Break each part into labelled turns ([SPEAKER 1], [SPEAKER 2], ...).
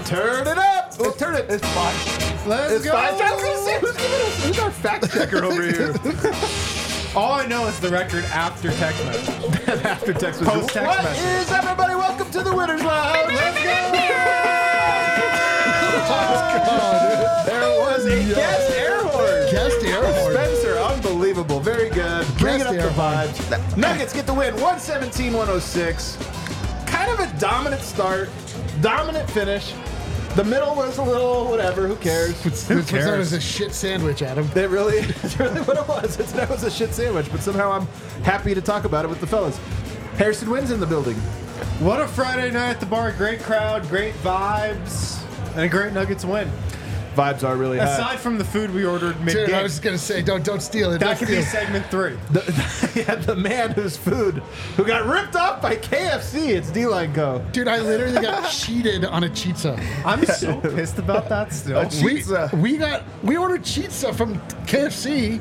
[SPEAKER 1] Turn it up. Oh, turn it.
[SPEAKER 2] It's 5.
[SPEAKER 1] Let's go. I was gonna say, who's our fact checker over here?
[SPEAKER 3] All I know is the record after text message.
[SPEAKER 1] After text message.
[SPEAKER 3] Post text
[SPEAKER 1] What
[SPEAKER 3] message.
[SPEAKER 1] is everybody? Welcome to the Winners Lounge. Let's go. There was a guest air horn.
[SPEAKER 2] Guest air horn.
[SPEAKER 1] Spencer, unbelievable. Very good. Bringing up the
[SPEAKER 2] air horn.
[SPEAKER 1] vibes. Nuggets get the win. 117-106. Kind of a dominant start. Dominant finish. The middle was a little whatever. Who cares?
[SPEAKER 2] Who cares? That was a shit sandwich, Adam.
[SPEAKER 1] It's really what it was. That was a shit sandwich, but somehow I'm happy to talk about it with the fellas. Harrison Wynn's in the building.
[SPEAKER 3] What a Friday night at the bar. Great crowd, great vibes, and a great Nuggets win.
[SPEAKER 1] Vibes are really high.
[SPEAKER 3] Aside from the food we ordered mid-game.
[SPEAKER 2] Dude, I was going to say, don't steal it.
[SPEAKER 3] That
[SPEAKER 2] Don't
[SPEAKER 3] could be
[SPEAKER 2] steal.
[SPEAKER 3] segment 3.
[SPEAKER 1] The man who got ripped off by KFC. It's D-Line Co.
[SPEAKER 2] Dude, I literally got cheated on a chizza.
[SPEAKER 3] I'm so pissed about that still.
[SPEAKER 2] We ordered chizza from KFC,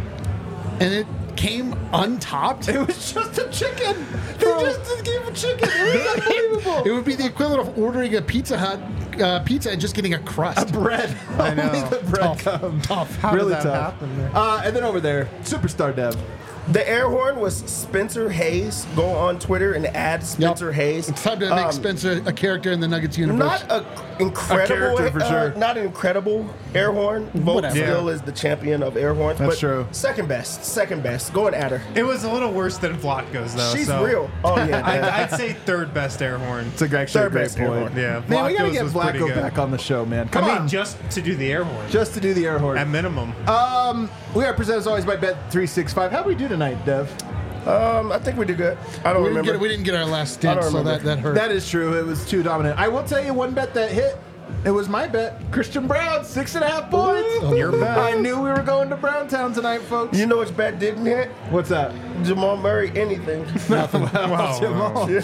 [SPEAKER 2] and it came untopped.
[SPEAKER 1] It was just a chicken. They just gave a chicken. It was unbelievable.
[SPEAKER 2] It would be the equivalent of ordering a Pizza Hut pizza and just getting a crust.
[SPEAKER 1] A bread.
[SPEAKER 3] I know.
[SPEAKER 1] Only the bread comes.
[SPEAKER 2] Tough.
[SPEAKER 3] How
[SPEAKER 1] Really
[SPEAKER 3] did that
[SPEAKER 1] tough.
[SPEAKER 3] happen there?
[SPEAKER 1] And then over there, Superstar Dev.
[SPEAKER 4] The air horn was Spencer Hayes. Go on Twitter and add Spencer Hayes.
[SPEAKER 2] It's time to make Spencer a character in the Nuggets universe.
[SPEAKER 4] Not an incredible,
[SPEAKER 1] character for sure.
[SPEAKER 4] not an incredible air horn. Vogt
[SPEAKER 2] Whatever.
[SPEAKER 4] still is the champion of air horns.
[SPEAKER 1] That's
[SPEAKER 4] but
[SPEAKER 1] true.
[SPEAKER 4] Second best. Go and add her.
[SPEAKER 3] It was a little worse than Vlatko's, though.
[SPEAKER 4] She's
[SPEAKER 3] so
[SPEAKER 4] real. Oh yeah.
[SPEAKER 3] I'd say third best air horn.
[SPEAKER 1] It's actually a
[SPEAKER 4] Third
[SPEAKER 1] great
[SPEAKER 4] best air
[SPEAKER 1] point.
[SPEAKER 4] horn.
[SPEAKER 3] Yeah,
[SPEAKER 1] Man, we gotta
[SPEAKER 3] Vlatko's
[SPEAKER 1] get
[SPEAKER 3] was pretty
[SPEAKER 1] Vlatko
[SPEAKER 3] good.
[SPEAKER 1] back on the show, man. Come
[SPEAKER 3] I
[SPEAKER 1] on.
[SPEAKER 3] mean, just to do the air horn.
[SPEAKER 1] Just to do the air horn.
[SPEAKER 3] At minimum.
[SPEAKER 1] We are presented as always by Bet365. How do we do tonight, Dev?
[SPEAKER 4] I think we did good. I don't remember.
[SPEAKER 2] We didn't get our last
[SPEAKER 4] I
[SPEAKER 2] stint,
[SPEAKER 4] don't
[SPEAKER 2] so
[SPEAKER 4] remember.
[SPEAKER 2] that hurt.
[SPEAKER 1] That is true. It was too dominant. I will tell you one bet that hit. It was my bet. Christian Brown, 6.5 points.
[SPEAKER 3] Your bet.
[SPEAKER 1] I knew we were going to Browntown tonight, folks.
[SPEAKER 4] You know which bet didn't hit?
[SPEAKER 1] What's that?
[SPEAKER 4] Jamal Murray. Anything.
[SPEAKER 3] Wow.
[SPEAKER 1] Jamal.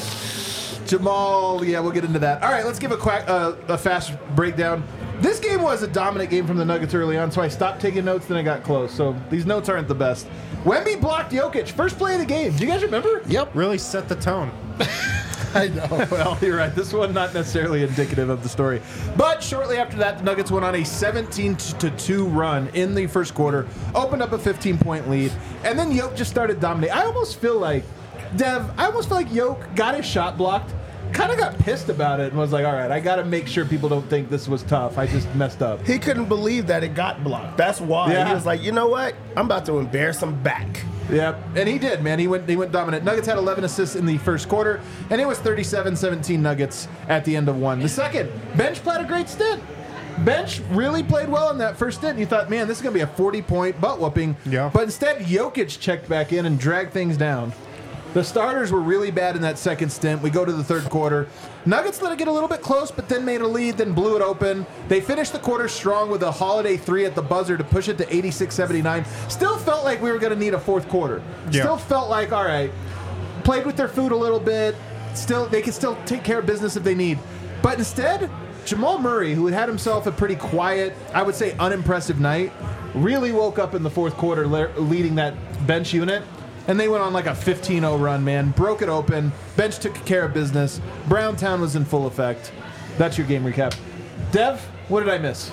[SPEAKER 1] Jamal, yeah, we'll get into that. All right, let's give a fast breakdown. This game was a dominant game from the Nuggets early on, so I stopped taking notes, then I got close. So these notes aren't the best. Wemby blocked Jokic. First play of the game. Do you guys remember?
[SPEAKER 2] Yep.
[SPEAKER 3] Really set the tone.
[SPEAKER 2] I know.
[SPEAKER 1] Well, you're right. This one not necessarily indicative of the story. But shortly after that, the Nuggets went on a 17-2 run in the first quarter, opened up a 15-point lead, and then Jokic just started dominating. I almost feel like Jokic got his shot blocked, kind of got pissed about it, and was like, all right, I got to make sure people don't think this was tough. I just messed up.
[SPEAKER 4] He couldn't believe that it got blocked. That's why
[SPEAKER 1] Yeah.
[SPEAKER 4] he was like, you know what? I'm about to embarrass him back.
[SPEAKER 1] Yep, and he did, man. He went dominant. Nuggets had 11 assists in the first quarter, and it was 37-17 Nuggets at the end of one. The second, Bench played a great stint. Bench really played well in that first stint. And you thought, man, this is going to be a 40-point butt whooping.
[SPEAKER 3] Yeah.
[SPEAKER 1] But instead, Jokic checked back in and dragged things down. The starters were really bad in that second stint. We go to the third quarter. Nuggets let it get a little bit close, but then made a lead, then blew it open. They finished the quarter strong with a Holiday 3 at the buzzer to push it to 86-79. Still felt like we were going to need a fourth quarter.
[SPEAKER 3] Yeah.
[SPEAKER 1] Still felt like, all right, played with their food a little bit. They can still take care of business if they need. But instead, Jamal Murray, who had himself a pretty quiet, I would say unimpressive night, really woke up in the fourth quarter leading that bench unit. And they went on like a 15-0 run, man. Broke it open. Bench took care of business. Browntown was in full effect. That's your game recap. Dev, what did I miss?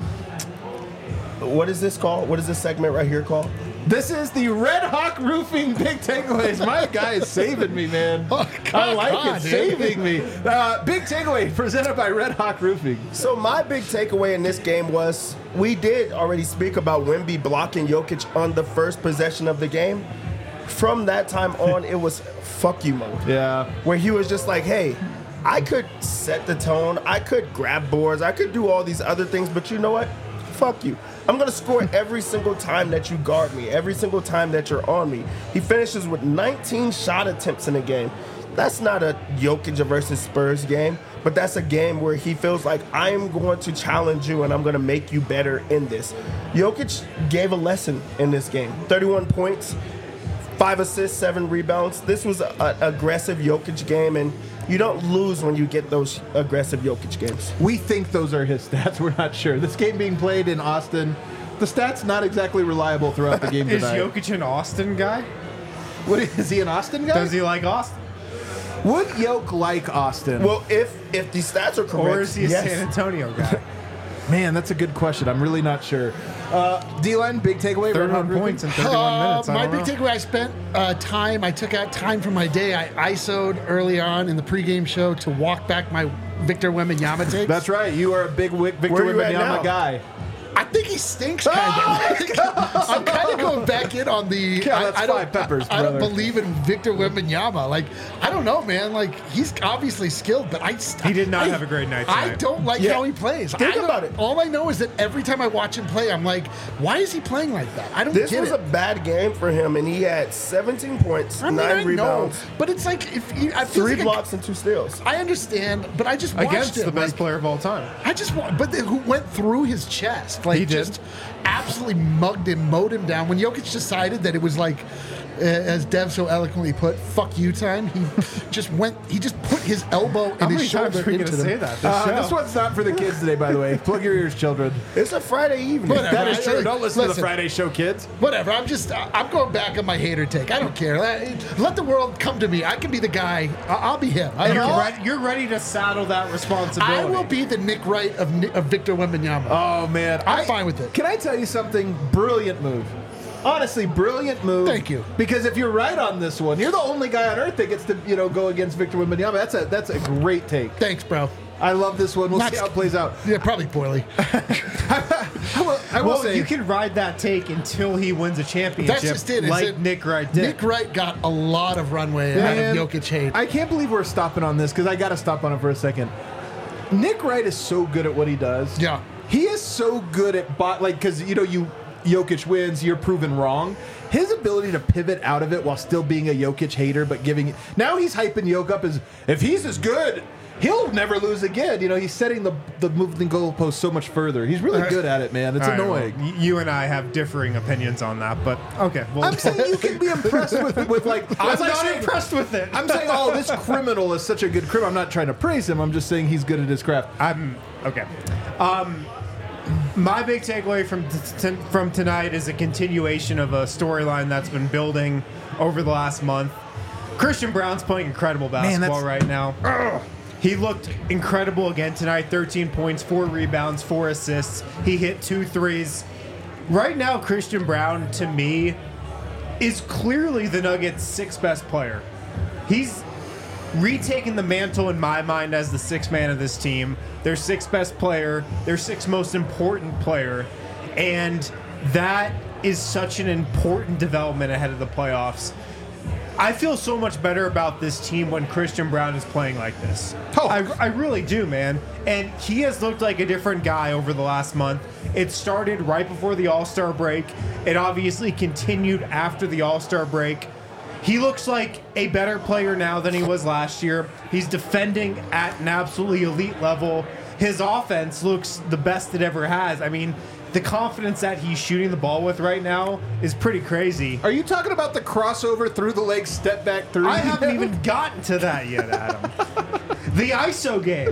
[SPEAKER 4] What is this called? What is this segment right here called?
[SPEAKER 1] This is the Red Hawk Roofing Big Takeaways. My guy is saving me, man. I like it, saving me. Big Takeaway presented by Red Hawk Roofing.
[SPEAKER 4] So my big takeaway in this game was we did already speak about Wemby blocking Jokic on the first possession of the game. From that time on, it was fuck you mode.
[SPEAKER 1] Yeah.
[SPEAKER 4] Where he was just like, hey, I could set the tone, I could grab boards, I could do all these other things, but you know what? Fuck you. I'm going to score every single time that you guard me, every single time that you're on me. He finishes with 19 shot attempts in a game. That's not a Jokic versus Spurs game, but that's a game where he feels like I am going to challenge you and I'm going to make you better in this. Jokic gave a lesson in this game. 31 points, 5 assists, 7 rebounds. This was an aggressive Jokic game, and you don't lose when you get those aggressive Jokic games.
[SPEAKER 1] We think those are his stats. We're not sure. This game being played in Austin, the stats not exactly reliable throughout the game
[SPEAKER 3] Is
[SPEAKER 1] tonight.
[SPEAKER 3] Jokic an Austin guy?
[SPEAKER 1] What is he, an Austin guy?
[SPEAKER 3] Does he like Austin?
[SPEAKER 1] Would Yoke like Austin?
[SPEAKER 4] Well, if the stats are correct,
[SPEAKER 3] Or is he a
[SPEAKER 4] yes.
[SPEAKER 3] San Antonio guy?
[SPEAKER 1] Man, that's a good question. I'm really not sure. D-line, big takeaway.
[SPEAKER 3] 31 points in 31 minutes. I
[SPEAKER 2] My
[SPEAKER 3] don't
[SPEAKER 2] big
[SPEAKER 3] know.
[SPEAKER 2] takeaway, I took out time from my day. I ISO'd early on in the pregame show to walk back my Victor Wembanyama takes.
[SPEAKER 1] That's right. You are a big Victor
[SPEAKER 4] Where you at now?
[SPEAKER 1] Wembanyama guy.
[SPEAKER 2] I think he stinks, kind of. I'm kind of going back in on the.
[SPEAKER 1] Yeah, that's
[SPEAKER 2] I don't,
[SPEAKER 1] five peppers,
[SPEAKER 2] I don't
[SPEAKER 1] brother.
[SPEAKER 2] believe in Victor Wembanyama. Like, I don't know, man. Like, he's obviously skilled, but
[SPEAKER 3] He did not have a great night
[SPEAKER 2] I
[SPEAKER 3] tonight.
[SPEAKER 2] don't like
[SPEAKER 4] Yeah.
[SPEAKER 2] how he plays.
[SPEAKER 4] Think
[SPEAKER 2] I don't-
[SPEAKER 4] about it.
[SPEAKER 2] All I know is that every time I watch him play, I'm like, why is he playing like that? I don't
[SPEAKER 4] This
[SPEAKER 2] get
[SPEAKER 4] was
[SPEAKER 2] it.
[SPEAKER 4] a bad game for him, and he had 17 points,
[SPEAKER 2] I mean,
[SPEAKER 4] 9
[SPEAKER 2] I
[SPEAKER 4] rebounds,
[SPEAKER 2] know, but it's like if he, I feel
[SPEAKER 4] 3
[SPEAKER 2] like
[SPEAKER 4] blocks, and 2 steals.
[SPEAKER 2] I understand, but I just watched
[SPEAKER 3] Against
[SPEAKER 2] him.
[SPEAKER 3] the best
[SPEAKER 2] like,
[SPEAKER 3] player of all time.
[SPEAKER 2] I just want, but who went through his chest? Like,
[SPEAKER 3] He did.
[SPEAKER 2] just absolutely mugged him, mowed him down. When Jokic decided that it was like, as Dev so eloquently put, "fuck you" time, he just went. He just put his elbow
[SPEAKER 3] How
[SPEAKER 2] and
[SPEAKER 3] many
[SPEAKER 2] his
[SPEAKER 3] times
[SPEAKER 2] shoulder
[SPEAKER 3] are we going
[SPEAKER 2] into
[SPEAKER 3] to say
[SPEAKER 2] them.
[SPEAKER 3] that? This show?
[SPEAKER 1] This one's not for the kids today, by the way. Plug your ears, children.
[SPEAKER 4] It's a Friday evening.
[SPEAKER 2] Whatever.
[SPEAKER 1] That is true.
[SPEAKER 2] Hey,
[SPEAKER 1] Don't listen to the
[SPEAKER 2] listen.
[SPEAKER 1] Friday show, kids.
[SPEAKER 2] Whatever. I'm going back on my hater take. I don't care. Let the world come to me. I can be the guy. I'll be him. I don't care.
[SPEAKER 3] You're ready to saddle that responsibility.
[SPEAKER 2] I will be the Nick Wright of Victor Wembanyama.
[SPEAKER 1] Oh, man.
[SPEAKER 2] I'm fine with it.
[SPEAKER 1] Can I tell you something? Brilliant move. Honestly, brilliant move.
[SPEAKER 2] Thank you.
[SPEAKER 1] Because if you're right on this one, you're the only guy on earth that gets to, go against Victor Wembanyama. That's a great take.
[SPEAKER 2] Thanks, bro.
[SPEAKER 1] I love this one. We'll
[SPEAKER 2] Not-
[SPEAKER 1] see how it plays out.
[SPEAKER 2] Yeah, probably poorly.
[SPEAKER 1] I will
[SPEAKER 3] Well,
[SPEAKER 1] say
[SPEAKER 3] you can ride that take until he wins a championship,
[SPEAKER 2] That's just it. is
[SPEAKER 3] like
[SPEAKER 2] it-
[SPEAKER 3] Nick Wright did.
[SPEAKER 2] Nick Wright got a lot of runway
[SPEAKER 1] Man,
[SPEAKER 2] out of Jokic hate.
[SPEAKER 1] I can't believe we're stopping on this because I got to stop on it for a second. Nick Wright is so good at what he does.
[SPEAKER 2] Yeah.
[SPEAKER 1] He is so good at because Jokic wins, you're proven wrong. His ability to pivot out of it while still being a Jokic hater, but now he's hyping Jokic up as if he's as good, he'll never lose again. He's setting the moving goalpost so much further. He's really good at it, man. It's
[SPEAKER 3] All right,
[SPEAKER 1] annoying.
[SPEAKER 3] well, you and I have differing opinions on that, but okay. Well,
[SPEAKER 1] I'm saying you can be impressed with like.
[SPEAKER 3] I'm
[SPEAKER 1] as I
[SPEAKER 3] not
[SPEAKER 1] say-
[SPEAKER 3] impressed with it.
[SPEAKER 1] I'm saying, oh, this criminal is such a good criminal. I'm not trying to praise him. I'm just saying he's good at his craft.
[SPEAKER 3] I'm okay. My big takeaway from tonight is a continuation of a storyline that's been building over the last month. Christian Brown's playing incredible basketball right now. He looked incredible again tonight. 13 points, 4 rebounds, 4 assists. He hit 2 threes. Right now, Christian Brown, to me, is clearly the Nuggets' 6th best player. He's retaken the mantle in my mind as the 6th man of this team, their 6th best player, their 6th most important player, and that is such an important development ahead of the playoffs. I feel so much better about this team when Christian Brown is playing like this.
[SPEAKER 1] Oh.
[SPEAKER 3] I really do, man. And he has looked like a different guy over the last month. It started right before the All-Star break. It obviously continued after the All-Star break. He looks like a better player now than he was last year. He's defending at an absolutely elite level. His offense looks the best it ever has. I mean, the confidence that he's shooting the ball with right now is pretty crazy.
[SPEAKER 1] Are you talking about the crossover through the leg, step back three?
[SPEAKER 3] I haven't even gotten to that yet, Adam. The ISO game.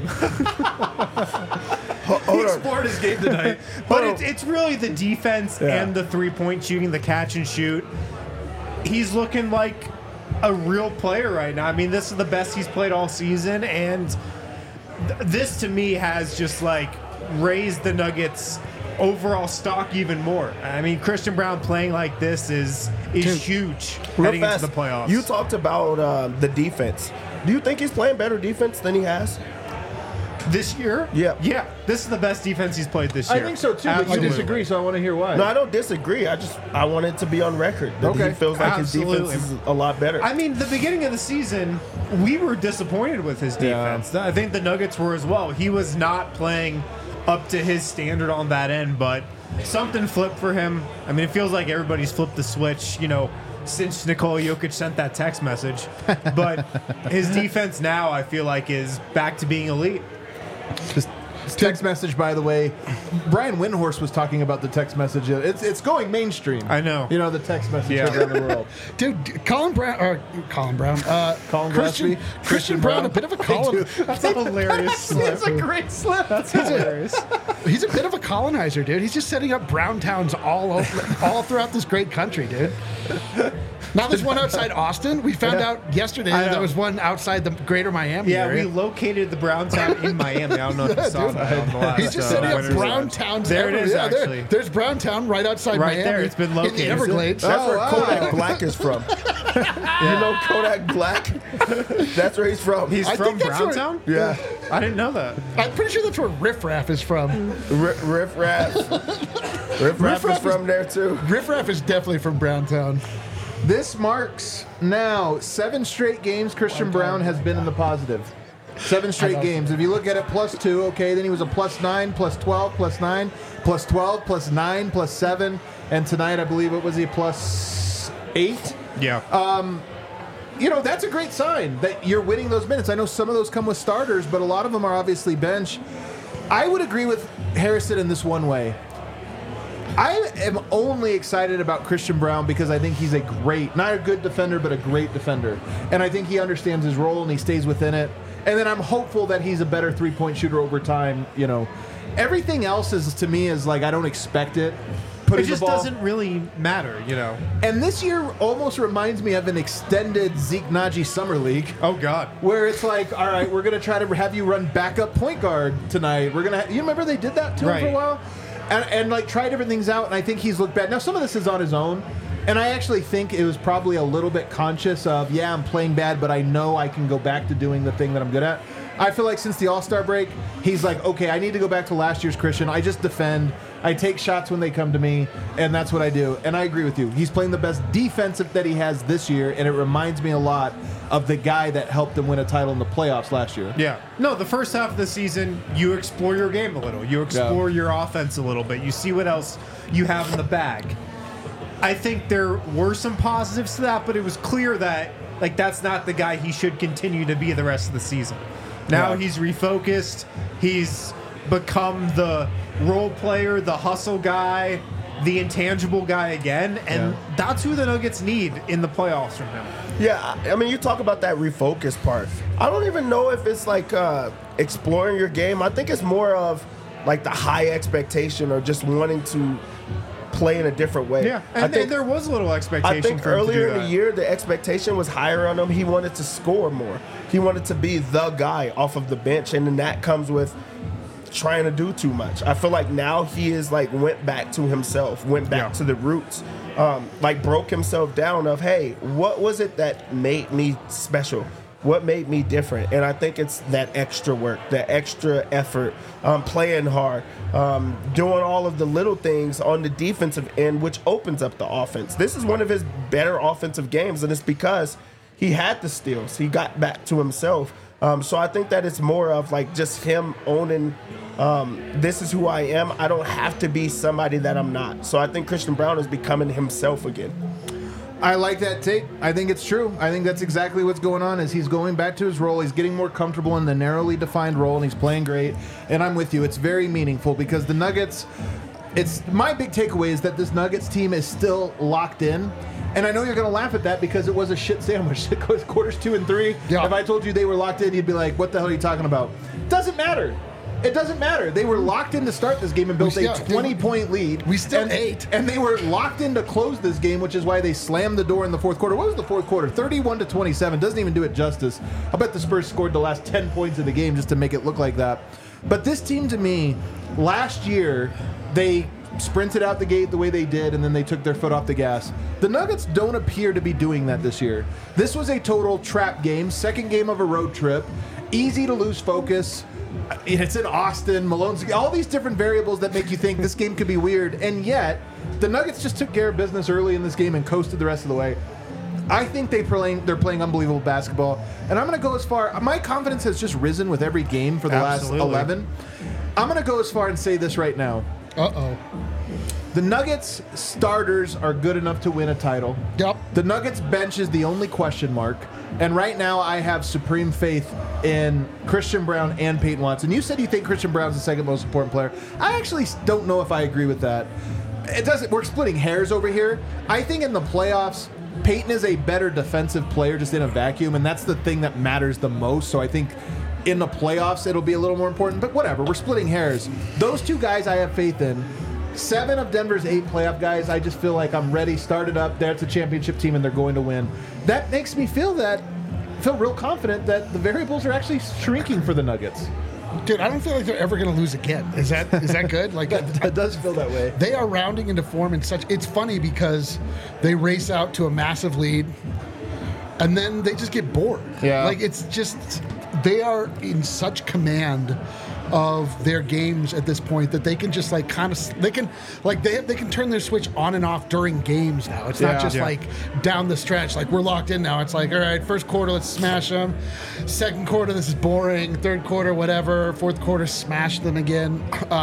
[SPEAKER 1] He
[SPEAKER 4] Hold on.
[SPEAKER 1] explored his game tonight.
[SPEAKER 3] But it's really the defense and the three-point shooting, the catch and shoot. He's looking like a real player right now. I mean, this is the best he's played all season, and this to me has just like raised the Nuggets' overall stock even more. I mean, Christian Brown playing like this is huge
[SPEAKER 4] Real
[SPEAKER 3] heading
[SPEAKER 4] fast,
[SPEAKER 3] into the playoffs.
[SPEAKER 4] you talked about the defense. Do you think he's playing better defense than he has?
[SPEAKER 3] This year?
[SPEAKER 4] Yeah.
[SPEAKER 3] Yeah. This is the best defense he's played this
[SPEAKER 1] I
[SPEAKER 3] year.
[SPEAKER 1] think so too, but you
[SPEAKER 3] Absolutely.
[SPEAKER 1] disagree, so I want to hear why.
[SPEAKER 4] No, I don't disagree. I want it to be on record that
[SPEAKER 1] Okay.
[SPEAKER 4] he feels like
[SPEAKER 3] Absolutely.
[SPEAKER 4] his defense is a lot better.
[SPEAKER 3] I mean, the beginning of the season, we were disappointed with his defense. I think the Nuggets were as well. He was not playing up to his standard on that end, but something flipped for him. I mean, it feels like everybody's flipped the switch, since Nikola Jokic sent that text message. But his defense now, I feel like, is back to being elite.
[SPEAKER 1] This text message, by the way, Brian Windhorst was talking about the text message. It's going mainstream.
[SPEAKER 3] I know.
[SPEAKER 1] The text message
[SPEAKER 3] Yeah.
[SPEAKER 1] around the world.
[SPEAKER 2] Dude, Colin Brown,
[SPEAKER 1] Colin
[SPEAKER 2] Christian Brown, a bit of a Colin.
[SPEAKER 3] That's a hilarious slip.
[SPEAKER 1] It's a great slip.
[SPEAKER 3] That's hilarious.
[SPEAKER 2] He's a bit of a colonizer, dude. He's just setting up brown towns all throughout this great country, dude. Now there's one outside Austin. We found out yesterday
[SPEAKER 3] I know.
[SPEAKER 2] there was one outside the greater Miami
[SPEAKER 3] Yeah,
[SPEAKER 2] area.
[SPEAKER 3] we located the Browntown in Miami. I don't know if you saw that on the last.
[SPEAKER 2] He's just setting up
[SPEAKER 3] Winners
[SPEAKER 2] Browntown.
[SPEAKER 3] There it is, actually.
[SPEAKER 2] There's Browntown right outside
[SPEAKER 3] Right
[SPEAKER 2] Miami.
[SPEAKER 3] there, it's been
[SPEAKER 2] in the
[SPEAKER 3] located.
[SPEAKER 2] Everglades.
[SPEAKER 4] That's where
[SPEAKER 1] wow.
[SPEAKER 4] Kodak Black is from. You know Kodak Black? That's where he's from.
[SPEAKER 3] He's
[SPEAKER 2] I
[SPEAKER 3] from
[SPEAKER 2] think that's where-
[SPEAKER 3] Browntown?
[SPEAKER 4] yeah.
[SPEAKER 3] I didn't know that.
[SPEAKER 2] I'm pretty sure that's where Riff Raff is from.
[SPEAKER 4] Riff Raff. Riff Raff is from there too.
[SPEAKER 2] Riff Raff is definitely from Browntown.
[SPEAKER 1] This marks now 7 straight games Christian Brown has been in the positive. 7 straight games. If you look at it, +2, okay, then he was a +9, +12, +9, +12, +9, +7, and tonight I believe it was a +8.
[SPEAKER 3] Yeah.
[SPEAKER 1] You know, that's a great sign that you're winning those minutes. I know some of those come with starters, but a lot of them are obviously bench. I would agree with Harrison in this one way. I am only excited about Christian Brown because I think he's a great, not a good defender, but a great defender. And I think he understands his role and he stays within it. And then I'm hopeful that he's a better three-point shooter over time, you know. Everything else is, to me, is like I don't expect it. Putting
[SPEAKER 3] It just
[SPEAKER 1] the ball,
[SPEAKER 3] doesn't really matter, you know.
[SPEAKER 1] And this year almost reminds me of an extended Zeke Naji Summer League.
[SPEAKER 3] Oh, God.
[SPEAKER 1] Where it's like, all right, we're going to try to have you run backup point guard tonight. We're going to, you remember they did that to him for a
[SPEAKER 3] Right.
[SPEAKER 1] while? And like try different things out, and I think he's looked bad. Now, some of this is on his own, and I actually think it was probably a little bit conscious of, yeah, I'm playing bad, but I know I can go back to doing the thing that I'm good at. I feel like since the All-Star break, he's like, okay, I need to go back to last year's Christian. I just defend. I take shots when they come to me, and that's what I do. And I agree with you. He's playing the best defensive that he has this year, and it reminds me a lot of the guy that helped him win a title in the playoffs last year.
[SPEAKER 3] Yeah. No, the first half of the season, you explore your game a little. You explore your offense a little bit. You see what else you have in the bag. I think there were some positives to that, but it was clear that like that's not the guy he should continue to be the rest of the season. Now he's refocused. He's become the role player, the hustle guy, the intangible guy again, and that's who the Nuggets need in the playoffs from him.
[SPEAKER 4] Yeah, I mean, you talk about that refocus part. I don't even know if it's like exploring your game. I think it's more of like the high expectation or just wanting to play in a different way.
[SPEAKER 3] Yeah,
[SPEAKER 4] I
[SPEAKER 3] and
[SPEAKER 4] think,
[SPEAKER 3] there was a little expectation
[SPEAKER 4] I think
[SPEAKER 3] for him to do
[SPEAKER 4] earlier in
[SPEAKER 3] that.
[SPEAKER 4] the year, the expectation was higher on him. He wanted to score more. He wanted to be the guy off of the bench, and then that comes with trying to do too much. I feel like now he is like went back to himself, went back to the roots, like broke himself down of, hey, what was it that made me special? What made me different? And I think it's that extra work, that extra effort, playing hard, doing all of the little things on the defensive end, which opens up the offense. This is one of his better offensive games, and it's because he had the steals. He got back to himself. So I think that it's more of like just him owning, this is who I am. I don't have to be somebody that I'm not. So I think Christian Brown is becoming himself again.
[SPEAKER 1] I like that take. I think it's true. I think that's exactly what's going on is he's going back to his role. He's getting more comfortable in the narrowly defined role, and he's playing great. And I'm with you. It's very meaningful because the Nuggets, it's my big takeaway is that this Nuggets team is still locked in. And I know you're going to laugh at that because it was a shit sandwich. It goes quarters 2 and 3.
[SPEAKER 2] Yeah.
[SPEAKER 1] If I told you they were locked in, you'd be like, what the hell are you talking about? Doesn't matter. It doesn't matter. They were locked in to start this game and built a 20-point lead.
[SPEAKER 2] We still ate.
[SPEAKER 1] And they were locked in to close this game, which is why they slammed the door in the fourth quarter. What was the fourth quarter? 31-27. Doesn't even do it justice. I bet the Spurs scored the last 10 points of the game just to make it look like that. But this team, to me, last year, they sprinted out the gate the way they did, and then they took their foot off the gas. The Nuggets don't appear to be doing that this year. This was a total trap game, second game of a road trip, easy to lose focus. It's in Austin, Malone's, all these different variables that make you think this game could be weird, and yet the Nuggets just took care of business early in this game and coasted the rest of the way. I think they're playing unbelievable basketball, and I'm going to go as far. My confidence has just risen with every game for the last 11. I'm going to go as far and say this right now.
[SPEAKER 2] Uh-oh.
[SPEAKER 1] The Nuggets starters are good enough to win a title.
[SPEAKER 2] Yep.
[SPEAKER 1] The Nuggets bench is the only question mark. And right now I have supreme faith in Christian Brown and Peyton Watson. You said you think Christian Brown's the second most important player. I actually don't know if I agree with that. We're splitting hairs over here. I think in the playoffs, Peyton is a better defensive player just in a vacuum, and that's the thing that matters the most. So I think in the playoffs it'll be a little more important, but whatever, we're splitting hairs. Those two guys I have faith in. 7 of Denver's 8 playoff guys, I just feel like I'm ready, started up. That's a championship team, and they're going to win. That makes me feel real confident that the variables are actually shrinking for the Nuggets.
[SPEAKER 2] Dude, I don't feel like they're ever going to lose again. Is that good? Like
[SPEAKER 1] That does feel that way.
[SPEAKER 2] they are rounding into form in such. It's funny because they race out to a massive lead, and then they just get bored.
[SPEAKER 1] Yeah.
[SPEAKER 2] Like it's just they are in such command of their games at this point that they can just like kind of they can turn their switch on and off during games now. It's not just like down the stretch like we're locked in now. It's like, all right, first quarter, let's smash them. Second quarter, this is boring. Third quarter, whatever. Fourth quarter, smash them again.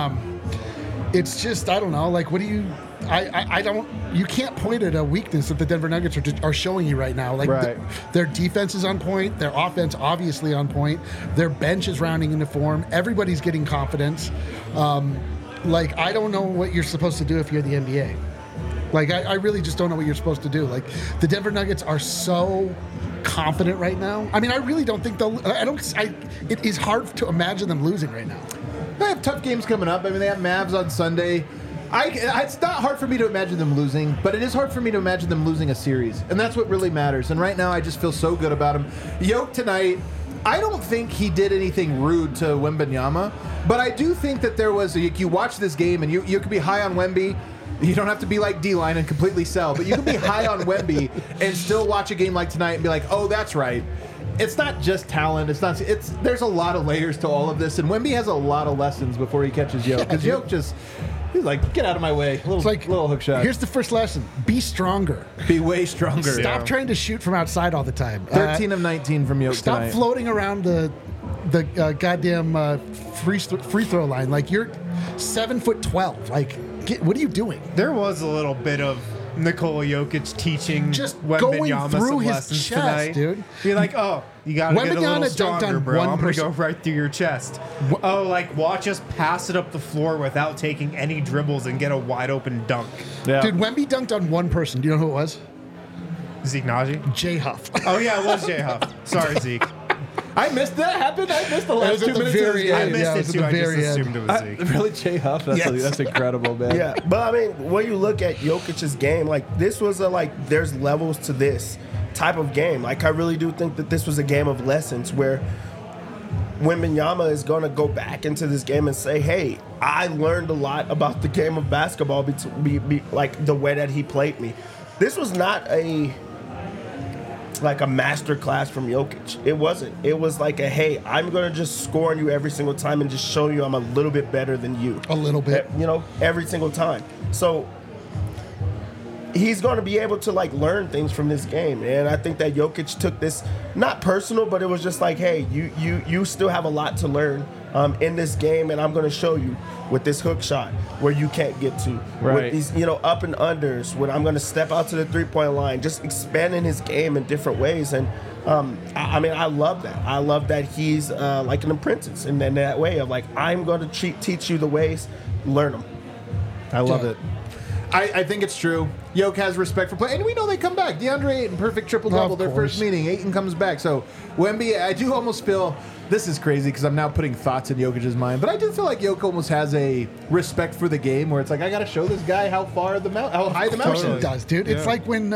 [SPEAKER 2] It's just, I don't know. Like, what do you? I don't. You can't point at a weakness that the Denver Nuggets are showing you right now. Like their defense is on point. Their offense obviously on point. Their bench is rounding into form. Everybody's getting confidence. Like, I don't know what you're supposed to do if you're the NBA. Like, I really just don't know what you're supposed to do. Like, the Denver Nuggets are so confident right now. I mean, I really don't think they'll. It is hard to imagine them losing right now.
[SPEAKER 1] They have tough games coming up. I mean, they have Mavs on Sunday. It's not hard for me to imagine them losing, but it is hard for me to imagine them losing a series, and that's what really matters. And right now, I just feel so good about him. Yoke tonight, I don't think he did anything rude to Wembanyama, but I do think that there was. You watch this game, and you could be high on Wemby. You don't have to be like D-Line and completely sell, but you can be high on Wemby and still watch a game like tonight and be like, oh, that's right. It's not just talent. There's a lot of layers to all of this, and Wemby has a lot of lessons before he catches Yoke. Because Yoke he's like, get out of my way. Little hook shot.
[SPEAKER 2] Here's the first lesson: be stronger.
[SPEAKER 1] Be way stronger.
[SPEAKER 2] Stop trying to shoot from outside all the time.
[SPEAKER 1] 13 of 19 from Yoke
[SPEAKER 2] Stop
[SPEAKER 1] tonight.
[SPEAKER 2] floating around the goddamn free throw line. Like, you're 7'12". Like, what are you doing?
[SPEAKER 3] There was a little bit of Nikola Jokic teaching
[SPEAKER 2] Just going
[SPEAKER 3] Wembanyama
[SPEAKER 2] through
[SPEAKER 3] some
[SPEAKER 2] his
[SPEAKER 3] lessons
[SPEAKER 2] chest,
[SPEAKER 3] tonight.
[SPEAKER 2] dude.
[SPEAKER 3] Be like, oh, you got to get a
[SPEAKER 2] Wembanyama
[SPEAKER 3] little
[SPEAKER 2] dunked
[SPEAKER 3] stronger,
[SPEAKER 2] on
[SPEAKER 3] bro.
[SPEAKER 2] one
[SPEAKER 3] I'm going to
[SPEAKER 2] person.
[SPEAKER 3] go right through your chest. Oh, like, watch us pass it up the floor without taking any dribbles and get a wide open dunk.
[SPEAKER 1] Yeah.
[SPEAKER 2] Dude, Wemby dunked on one person. Do you know who it was?
[SPEAKER 3] Zeke Naji?
[SPEAKER 2] Jay Huff.
[SPEAKER 3] Oh, yeah, it was Jay Huff. Sorry, Zeke.
[SPEAKER 1] I missed that happen. I missed the last
[SPEAKER 2] at
[SPEAKER 1] 2
[SPEAKER 2] the
[SPEAKER 1] minutes of
[SPEAKER 2] very
[SPEAKER 1] this game.
[SPEAKER 3] I
[SPEAKER 2] end.
[SPEAKER 3] missed
[SPEAKER 2] Yeah, it
[SPEAKER 3] it
[SPEAKER 2] was at
[SPEAKER 3] too.
[SPEAKER 2] the
[SPEAKER 3] I just
[SPEAKER 2] very end.
[SPEAKER 3] assumed it was Zeke.
[SPEAKER 1] Really, Jay Huff? That's incredible, man.
[SPEAKER 4] Yeah, but I mean, when you look at Jokic's game, like, this was there's levels to this type of game. Like, I really do think that this was a game of lessons where Wembanyama is going to go back into this game and say, hey, I learned a lot about the game of basketball, like the way that he played me. This was not a master class from Jokic. It wasn't. It was like hey, I'm going to just score on you every single time and just show you I'm a little bit better than you.
[SPEAKER 2] A little bit.
[SPEAKER 4] Every single time. So he's going to be able to learn things from this game. And I think that Jokic took this not personal, but it was just like, hey, you still have a lot to learn in this game, and I'm going to show you with this hook shot where you can't get to.
[SPEAKER 1] Right.
[SPEAKER 4] With these, up and unders, when I'm going to step out to the three-point line, just expanding his game in different ways. And I mean, I love that. I love that he's like an apprentice in that way of I'm going to teach you the ways, learn them.
[SPEAKER 1] I love it. I think it's true. Yoke has respect for play, and we know they come back. DeAndre Ayton, perfect triple-double, their first meeting. Ayton comes back. So Wemby, I do almost feel, this is crazy because I'm now putting thoughts in Jokic's mind, but I do feel like Yoke almost has a respect for the game where it's like, I got to show this guy how high the mountain
[SPEAKER 2] It does, dude. Yeah. It's like when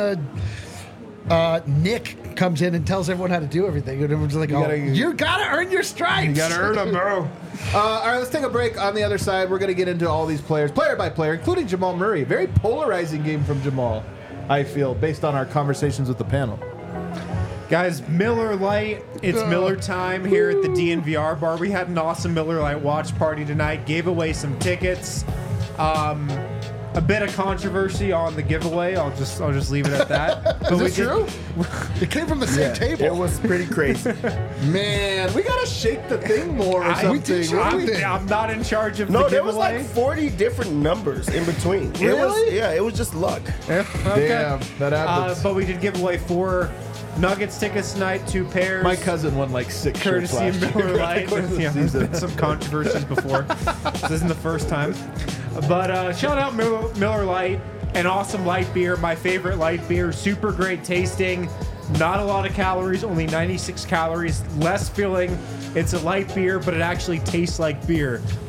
[SPEAKER 2] Nick comes in and tells everyone how to do everything. And everyone's like, you gotta earn your stripes.
[SPEAKER 1] You gotta earn them, bro. All right, let's take a break. On the other side, we're going to get into all these players, player by player, including Jamal Murray. Very polarizing game from Jamal, I feel, based on our conversations with the panel.
[SPEAKER 3] Guys, Miller Lite. It's Miller time here at the DNVR bar. We had an awesome Miller Lite watch party tonight. Gave away some tickets. A bit of controversy on the giveaway. I'll just leave it at that.
[SPEAKER 2] But is this true? It came from the same table.
[SPEAKER 4] It was pretty crazy.
[SPEAKER 1] Man, we gotta shake the thing more or something.
[SPEAKER 3] I'm not in charge of the
[SPEAKER 4] No,
[SPEAKER 3] giveaway.
[SPEAKER 4] there was like 40 different numbers in between.
[SPEAKER 1] Really?
[SPEAKER 4] It was just luck.
[SPEAKER 3] Okay.
[SPEAKER 1] Damn, that happens.
[SPEAKER 3] But we did give away 4 Nuggets tickets tonight, 2 pairs.
[SPEAKER 1] My cousin won like 6 shirts
[SPEAKER 3] courtesy
[SPEAKER 1] last
[SPEAKER 3] of Miller
[SPEAKER 1] year.
[SPEAKER 3] Lite. Yeah, there's been some controversies before. This isn't the first time. But shout out Miller Lite, an awesome light beer, my favorite light beer, super great tasting, not a lot of calories, only 96 calories, less filling. It's a light beer, but it actually tastes like beer.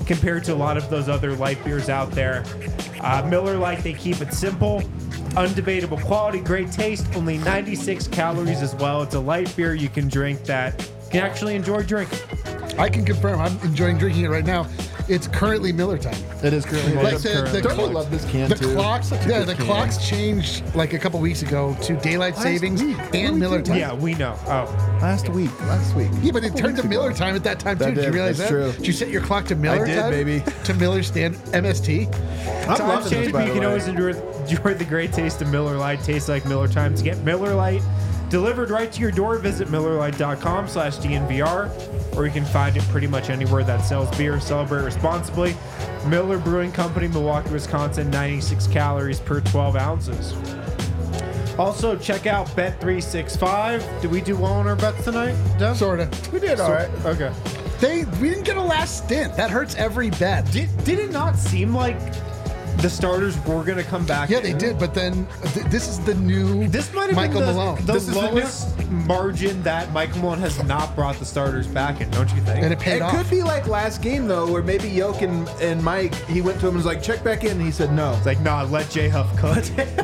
[SPEAKER 3] compared to a lot of those other light beers out there. Miller Lite, they keep it simple, undebatable quality, great taste, only 96 calories as well. It's a light beer you can drink that you can actually enjoy drinking.
[SPEAKER 2] I can confirm. I'm enjoying drinking it right now. It's currently Miller time.
[SPEAKER 1] It is currently.
[SPEAKER 3] Well,
[SPEAKER 1] Like,
[SPEAKER 3] it's currently-
[SPEAKER 1] don't you love this can
[SPEAKER 2] The
[SPEAKER 1] too?
[SPEAKER 2] clocks,
[SPEAKER 1] Such a
[SPEAKER 2] yeah,
[SPEAKER 1] good
[SPEAKER 2] the
[SPEAKER 1] can.
[SPEAKER 2] clocks changed like a couple weeks ago to daylight savings
[SPEAKER 1] week.
[SPEAKER 2] and
[SPEAKER 1] Really
[SPEAKER 2] Miller
[SPEAKER 1] did.
[SPEAKER 2] time.
[SPEAKER 3] Yeah, we know. Oh,
[SPEAKER 1] Last week.
[SPEAKER 2] Yeah, but it turned to Miller time at that time too.
[SPEAKER 1] That
[SPEAKER 2] Did you
[SPEAKER 1] did.
[SPEAKER 2] realize
[SPEAKER 1] That's
[SPEAKER 2] that?
[SPEAKER 1] true.
[SPEAKER 2] Did you set your clock to Miller
[SPEAKER 1] did,
[SPEAKER 2] time?
[SPEAKER 1] baby.
[SPEAKER 2] To Miller stand MST.
[SPEAKER 1] I'm
[SPEAKER 3] times
[SPEAKER 1] loving
[SPEAKER 3] change,
[SPEAKER 1] this,
[SPEAKER 3] but
[SPEAKER 1] by
[SPEAKER 3] you
[SPEAKER 1] the
[SPEAKER 3] can
[SPEAKER 1] way.
[SPEAKER 3] always enjoy the great taste of Miller Lite. Tastes like Miller time. To get Miller Lite delivered right to your door, visit MillerLite.com/DNVR, or you can find it pretty much anywhere that sells beer. Celebrate responsibly. Miller Brewing Company, Milwaukee, Wisconsin, 96 calories per 12 ounces. Also, check out Bet365. Did we do well on our bets tonight, Dev?
[SPEAKER 2] Sorta.
[SPEAKER 4] We did all right.
[SPEAKER 3] Okay.
[SPEAKER 2] We didn't get a last stint. That hurts every bet.
[SPEAKER 3] Did it not seem like the starters were going to come back?
[SPEAKER 2] Yeah, they did, but then this is the new
[SPEAKER 3] This might have
[SPEAKER 2] Michael
[SPEAKER 3] been
[SPEAKER 2] Malone.
[SPEAKER 3] the
[SPEAKER 1] This is the
[SPEAKER 3] lowest margin that Michael Malone has not brought the starters back in, don't you think?
[SPEAKER 2] And it paid
[SPEAKER 1] It
[SPEAKER 2] off.
[SPEAKER 1] could be like last game though, where maybe Yoke and Mike, he went to him and was like, check back in, and he said no.
[SPEAKER 3] It's like, nah, let J Huff cook.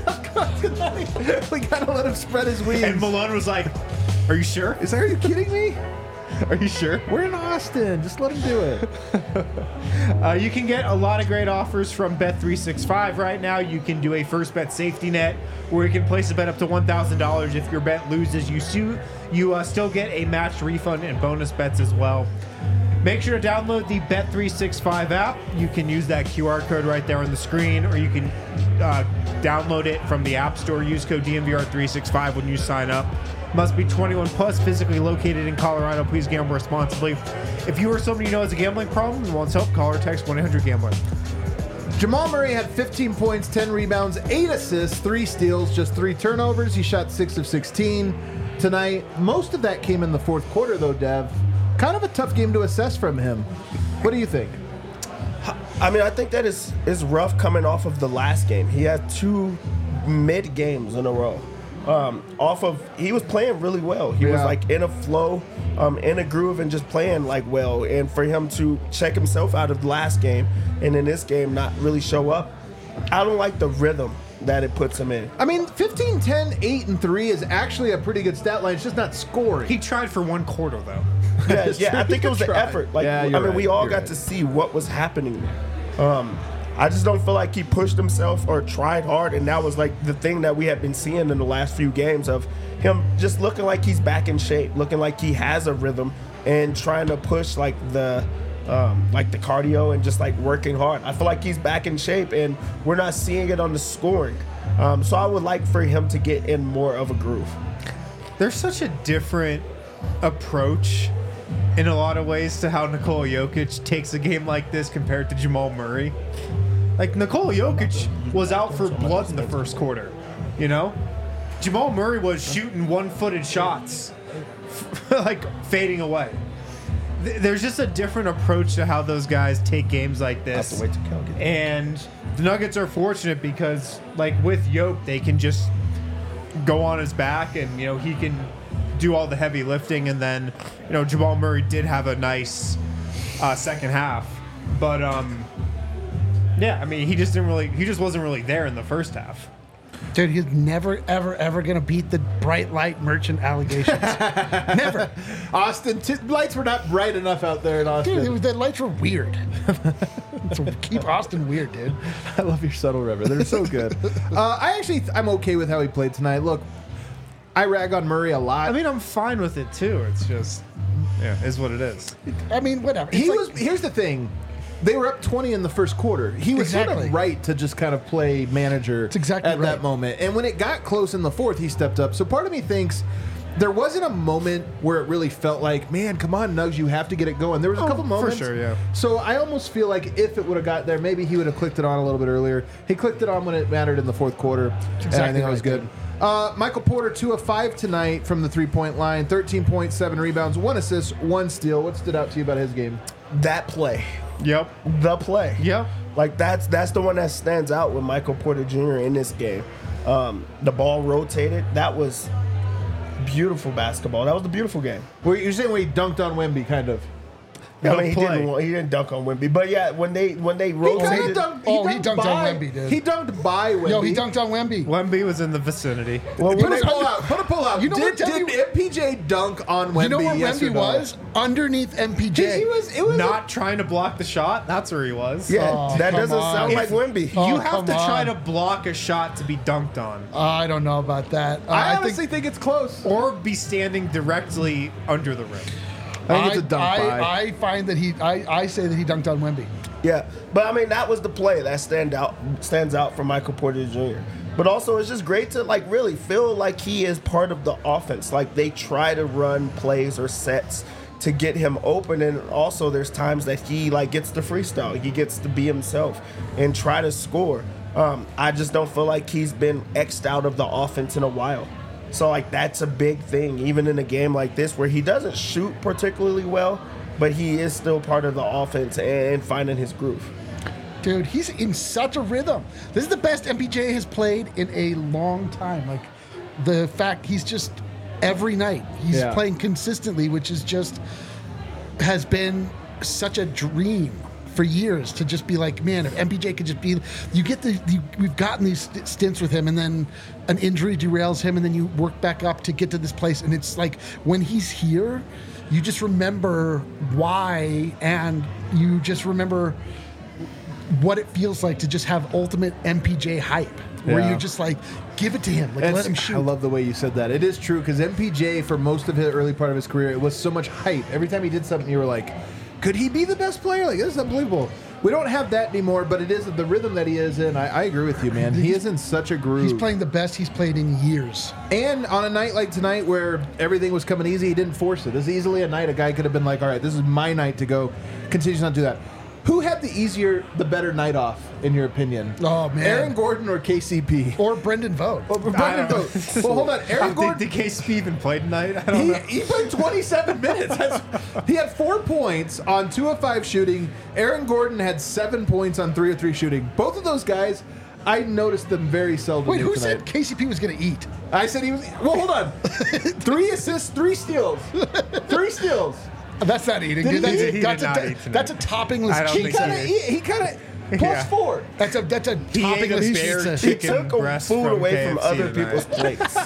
[SPEAKER 1] We gotta let him spread his wings.
[SPEAKER 3] And Malone was like, are you sure?
[SPEAKER 1] Are you kidding me?
[SPEAKER 3] Are you sure?
[SPEAKER 1] We're in Austin. Just let him do it.
[SPEAKER 3] You can get a lot of great offers from Bet365 right now. You can do a first bet safety net where you can place a bet up to $1,000. If your bet loses, you still get a matched refund and bonus bets as well. Make sure to download the Bet365 app. You can use that QR code right there on the screen, or you can download it from the App Store. Use code DNVR365 when you sign up. Must be 21 plus, physically located in Colorado. Please gamble responsibly. If you or somebody you know has a gambling problem and wants help, call or text 1-800-GAMBLER.
[SPEAKER 1] Jamal Murray had 15 points, 10 rebounds, 8 assists, 3 steals, just 3 turnovers. He shot 6 of 16 tonight. Most of that came in the fourth quarter, though, Dev. Kind of a tough game to assess from him. What do you think?
[SPEAKER 4] I mean, I think that is rough coming off of the last game. He had 2 mid games in a row. He was playing really well. He was like in a flow, in a groove, and just playing like well. And for him to check himself out of the last game and in this game not really show up, I don't like the rhythm that it puts him in.
[SPEAKER 1] I mean, 15, 10, 8, and 3 is actually a pretty good stat line. It's just not scoring.
[SPEAKER 3] He tried for 1 quarter, though.
[SPEAKER 4] Yeah, I think it was the
[SPEAKER 1] Try.
[SPEAKER 4] effort. Like,
[SPEAKER 1] Yeah,
[SPEAKER 4] I
[SPEAKER 1] you're
[SPEAKER 4] mean, we
[SPEAKER 1] right,
[SPEAKER 4] all
[SPEAKER 1] you're
[SPEAKER 4] got
[SPEAKER 1] right.
[SPEAKER 4] to see what was happening there. I just don't feel like he pushed himself or tried hard, and that was like the thing that we have been seeing in the last few games of him just looking like he's back in shape, looking like he has a rhythm, and trying to push like the cardio and just like working hard. I feel like he's back in shape, and we're not seeing it on the scoring. So I would like for him to get in more of a groove.
[SPEAKER 3] There's such a different approach in a lot of ways to how Nikola Jokic takes a game like this compared to Jamal Murray. Like, Nikola Jokic was out for blood in the first quarter, you know? Jamal Murray was shooting one-footed shots, like fading away. There's just a different approach to how those guys take games like this.
[SPEAKER 4] Have to wait till Cal gets
[SPEAKER 3] And the Nuggets are fortunate because, like, with Yoke, they can just go on his back and, you know, he can do all the heavy lifting. And then, you know, Jamal Murray did have a nice second half. But, yeah, I mean, he just wasn't really there in the first half.
[SPEAKER 2] Dude, he's never, ever, ever going to beat the bright light merchant allegations. Never.
[SPEAKER 1] Austin, lights were not bright enough out there in Austin.
[SPEAKER 2] Dude, the lights were weird. So keep Austin weird, dude.
[SPEAKER 1] I love your subtle river. They're so good. I'm okay with how he played tonight. Look, I rag on Murray a lot.
[SPEAKER 3] I mean, I'm fine with it, too. It's just, yeah, is what it is.
[SPEAKER 2] I mean, whatever.
[SPEAKER 1] Here's the thing. They were up 20 in the first quarter. He was sort
[SPEAKER 2] Exactly.
[SPEAKER 1] of right to just kind of play manager
[SPEAKER 2] exactly
[SPEAKER 1] at
[SPEAKER 2] right.
[SPEAKER 1] that moment. And when it got close in the fourth, he stepped up. So part of me thinks there wasn't a moment where it really felt like, man, come on, Nugs, you have to get it going. There was a couple moments.
[SPEAKER 3] For sure, yeah.
[SPEAKER 1] So I almost feel like if it would have got there, maybe he would have clicked it on a little bit earlier. He clicked it on when it mattered in the fourth quarter. And I
[SPEAKER 2] exactly
[SPEAKER 1] think it was
[SPEAKER 2] right,
[SPEAKER 1] good. Michael Porter, 2 of 5 tonight from the three-point line, 13 points, 7 rebounds, 1 assist, 1 steal. What stood out to you about his game?
[SPEAKER 4] That play.
[SPEAKER 3] Yep.
[SPEAKER 4] The play.
[SPEAKER 3] Yep.
[SPEAKER 4] Like that's the one that stands out with Michael Porter Jr. in this game. The ball rotated. That was beautiful basketball. That was the beautiful game.
[SPEAKER 1] Well, you're saying where he dunked on Wemby, kind of.
[SPEAKER 3] No
[SPEAKER 4] he
[SPEAKER 3] play.
[SPEAKER 4] didn't dunk on Wemby, but yeah, when they
[SPEAKER 1] He kind of
[SPEAKER 4] rotated,
[SPEAKER 1] dunked.
[SPEAKER 2] He dunked on Wemby, dude.
[SPEAKER 1] He dunked by Wemby.
[SPEAKER 2] Yo, he dunked on Wemby.
[SPEAKER 3] Wemby was in the vicinity.
[SPEAKER 4] well,
[SPEAKER 1] Put
[SPEAKER 4] when
[SPEAKER 1] a
[SPEAKER 4] they,
[SPEAKER 1] pull out. Put a pull out.
[SPEAKER 2] You know what,
[SPEAKER 1] did
[SPEAKER 2] tell me-
[SPEAKER 1] MPJ dunk on Wemby?
[SPEAKER 2] You know where
[SPEAKER 1] yes or
[SPEAKER 2] Wemby
[SPEAKER 1] no?
[SPEAKER 2] was? Underneath MPJ.
[SPEAKER 1] He was. It was
[SPEAKER 3] Not trying to block the shot. That's where he was.
[SPEAKER 4] yeah,
[SPEAKER 2] Oh,
[SPEAKER 4] that
[SPEAKER 2] come
[SPEAKER 4] doesn't
[SPEAKER 2] on.
[SPEAKER 4] sound like Wemby.
[SPEAKER 2] Oh,
[SPEAKER 3] You have
[SPEAKER 2] come
[SPEAKER 3] to try
[SPEAKER 2] on.
[SPEAKER 3] to block a shot to be dunked on,
[SPEAKER 2] I don't know about that.
[SPEAKER 1] I honestly think it's close.
[SPEAKER 3] or be standing directly under the rim.
[SPEAKER 1] I think it's a dunk by.
[SPEAKER 2] I find that I say that he dunked on Wemby.
[SPEAKER 4] Yeah, but I mean that was the play that stands out from Michael Porter Jr. But also it's just great to like really feel like he is part of the offense. Like they try to run plays or sets to get him open, and also there's times that he like gets to freestyle. He gets to be himself and try to score. I just don't feel like he's been X'd out of the offense in a while. So like that's a big thing, even in a game like this where he doesn't shoot particularly well, but he is still part of the offense and finding his groove.
[SPEAKER 2] Dude, he's in such a rhythm. This is the best MPJ has played in a long time. Like the fact he's just every night he's
[SPEAKER 1] Yeah.
[SPEAKER 2] playing consistently, which is just has been such a dream for years to just be like, man, if MPJ could just be, we've gotten these stints with him, and then an injury derails him, and then you work back up to get to this place, and it's like when he's here, you just remember why, and you just remember what it feels like to just have ultimate MPJ hype, where
[SPEAKER 1] Yeah.
[SPEAKER 2] you're just like, give it to him, like let him shoot.
[SPEAKER 1] I love the way you said that. It is true because MPJ, for most of the early part of his career, it was so much hype. Every time he did something, you were like, could he be the best player? Like, this is unbelievable. We don't have that anymore, but it is the rhythm that he is in. I agree with you, man. He is in such a groove.
[SPEAKER 2] He's playing the best he's played in years.
[SPEAKER 1] And on a night like tonight where everything was coming easy, he didn't force it. This is easily a night a guy could have been like, all right, this is my night to go. Continue to not do that. Who had the better night off, in your opinion?
[SPEAKER 2] Oh, man.
[SPEAKER 1] Aaron Gordon or KCP?
[SPEAKER 2] Or Brendan Vogt.
[SPEAKER 1] Brendan Vogt. Well, hold on. Aaron Gordon.
[SPEAKER 3] Did KCP even play tonight? I don't know.
[SPEAKER 1] He played 27 minutes. He had 4 points on 2 of 5 shooting. Aaron Gordon had 7 points on 3 of 3 shooting. Both of those guys, I noticed them very seldom.
[SPEAKER 2] Wait, who
[SPEAKER 1] tonight.
[SPEAKER 2] said KCP was going to eat?
[SPEAKER 1] I said he was. Well, hold on. 3 assists, 3 steals. 3 steals.
[SPEAKER 2] That's not eating,
[SPEAKER 1] Did
[SPEAKER 2] dude.
[SPEAKER 1] he
[SPEAKER 2] That's,
[SPEAKER 1] eat?
[SPEAKER 3] He
[SPEAKER 2] that's,
[SPEAKER 3] did
[SPEAKER 2] a,
[SPEAKER 3] not eat tonight.
[SPEAKER 2] that's a toppingless
[SPEAKER 3] I don't
[SPEAKER 2] cheat.
[SPEAKER 3] think so.
[SPEAKER 1] He kind of plus
[SPEAKER 3] Yeah.
[SPEAKER 1] 4.
[SPEAKER 2] That's a
[SPEAKER 3] He ate a
[SPEAKER 2] toppingless
[SPEAKER 3] bare
[SPEAKER 2] pizza.
[SPEAKER 4] He
[SPEAKER 3] chicken
[SPEAKER 4] took
[SPEAKER 3] breast
[SPEAKER 4] food
[SPEAKER 3] from
[SPEAKER 4] away from
[SPEAKER 3] KFC
[SPEAKER 4] other
[SPEAKER 3] tonight.
[SPEAKER 4] people's plates.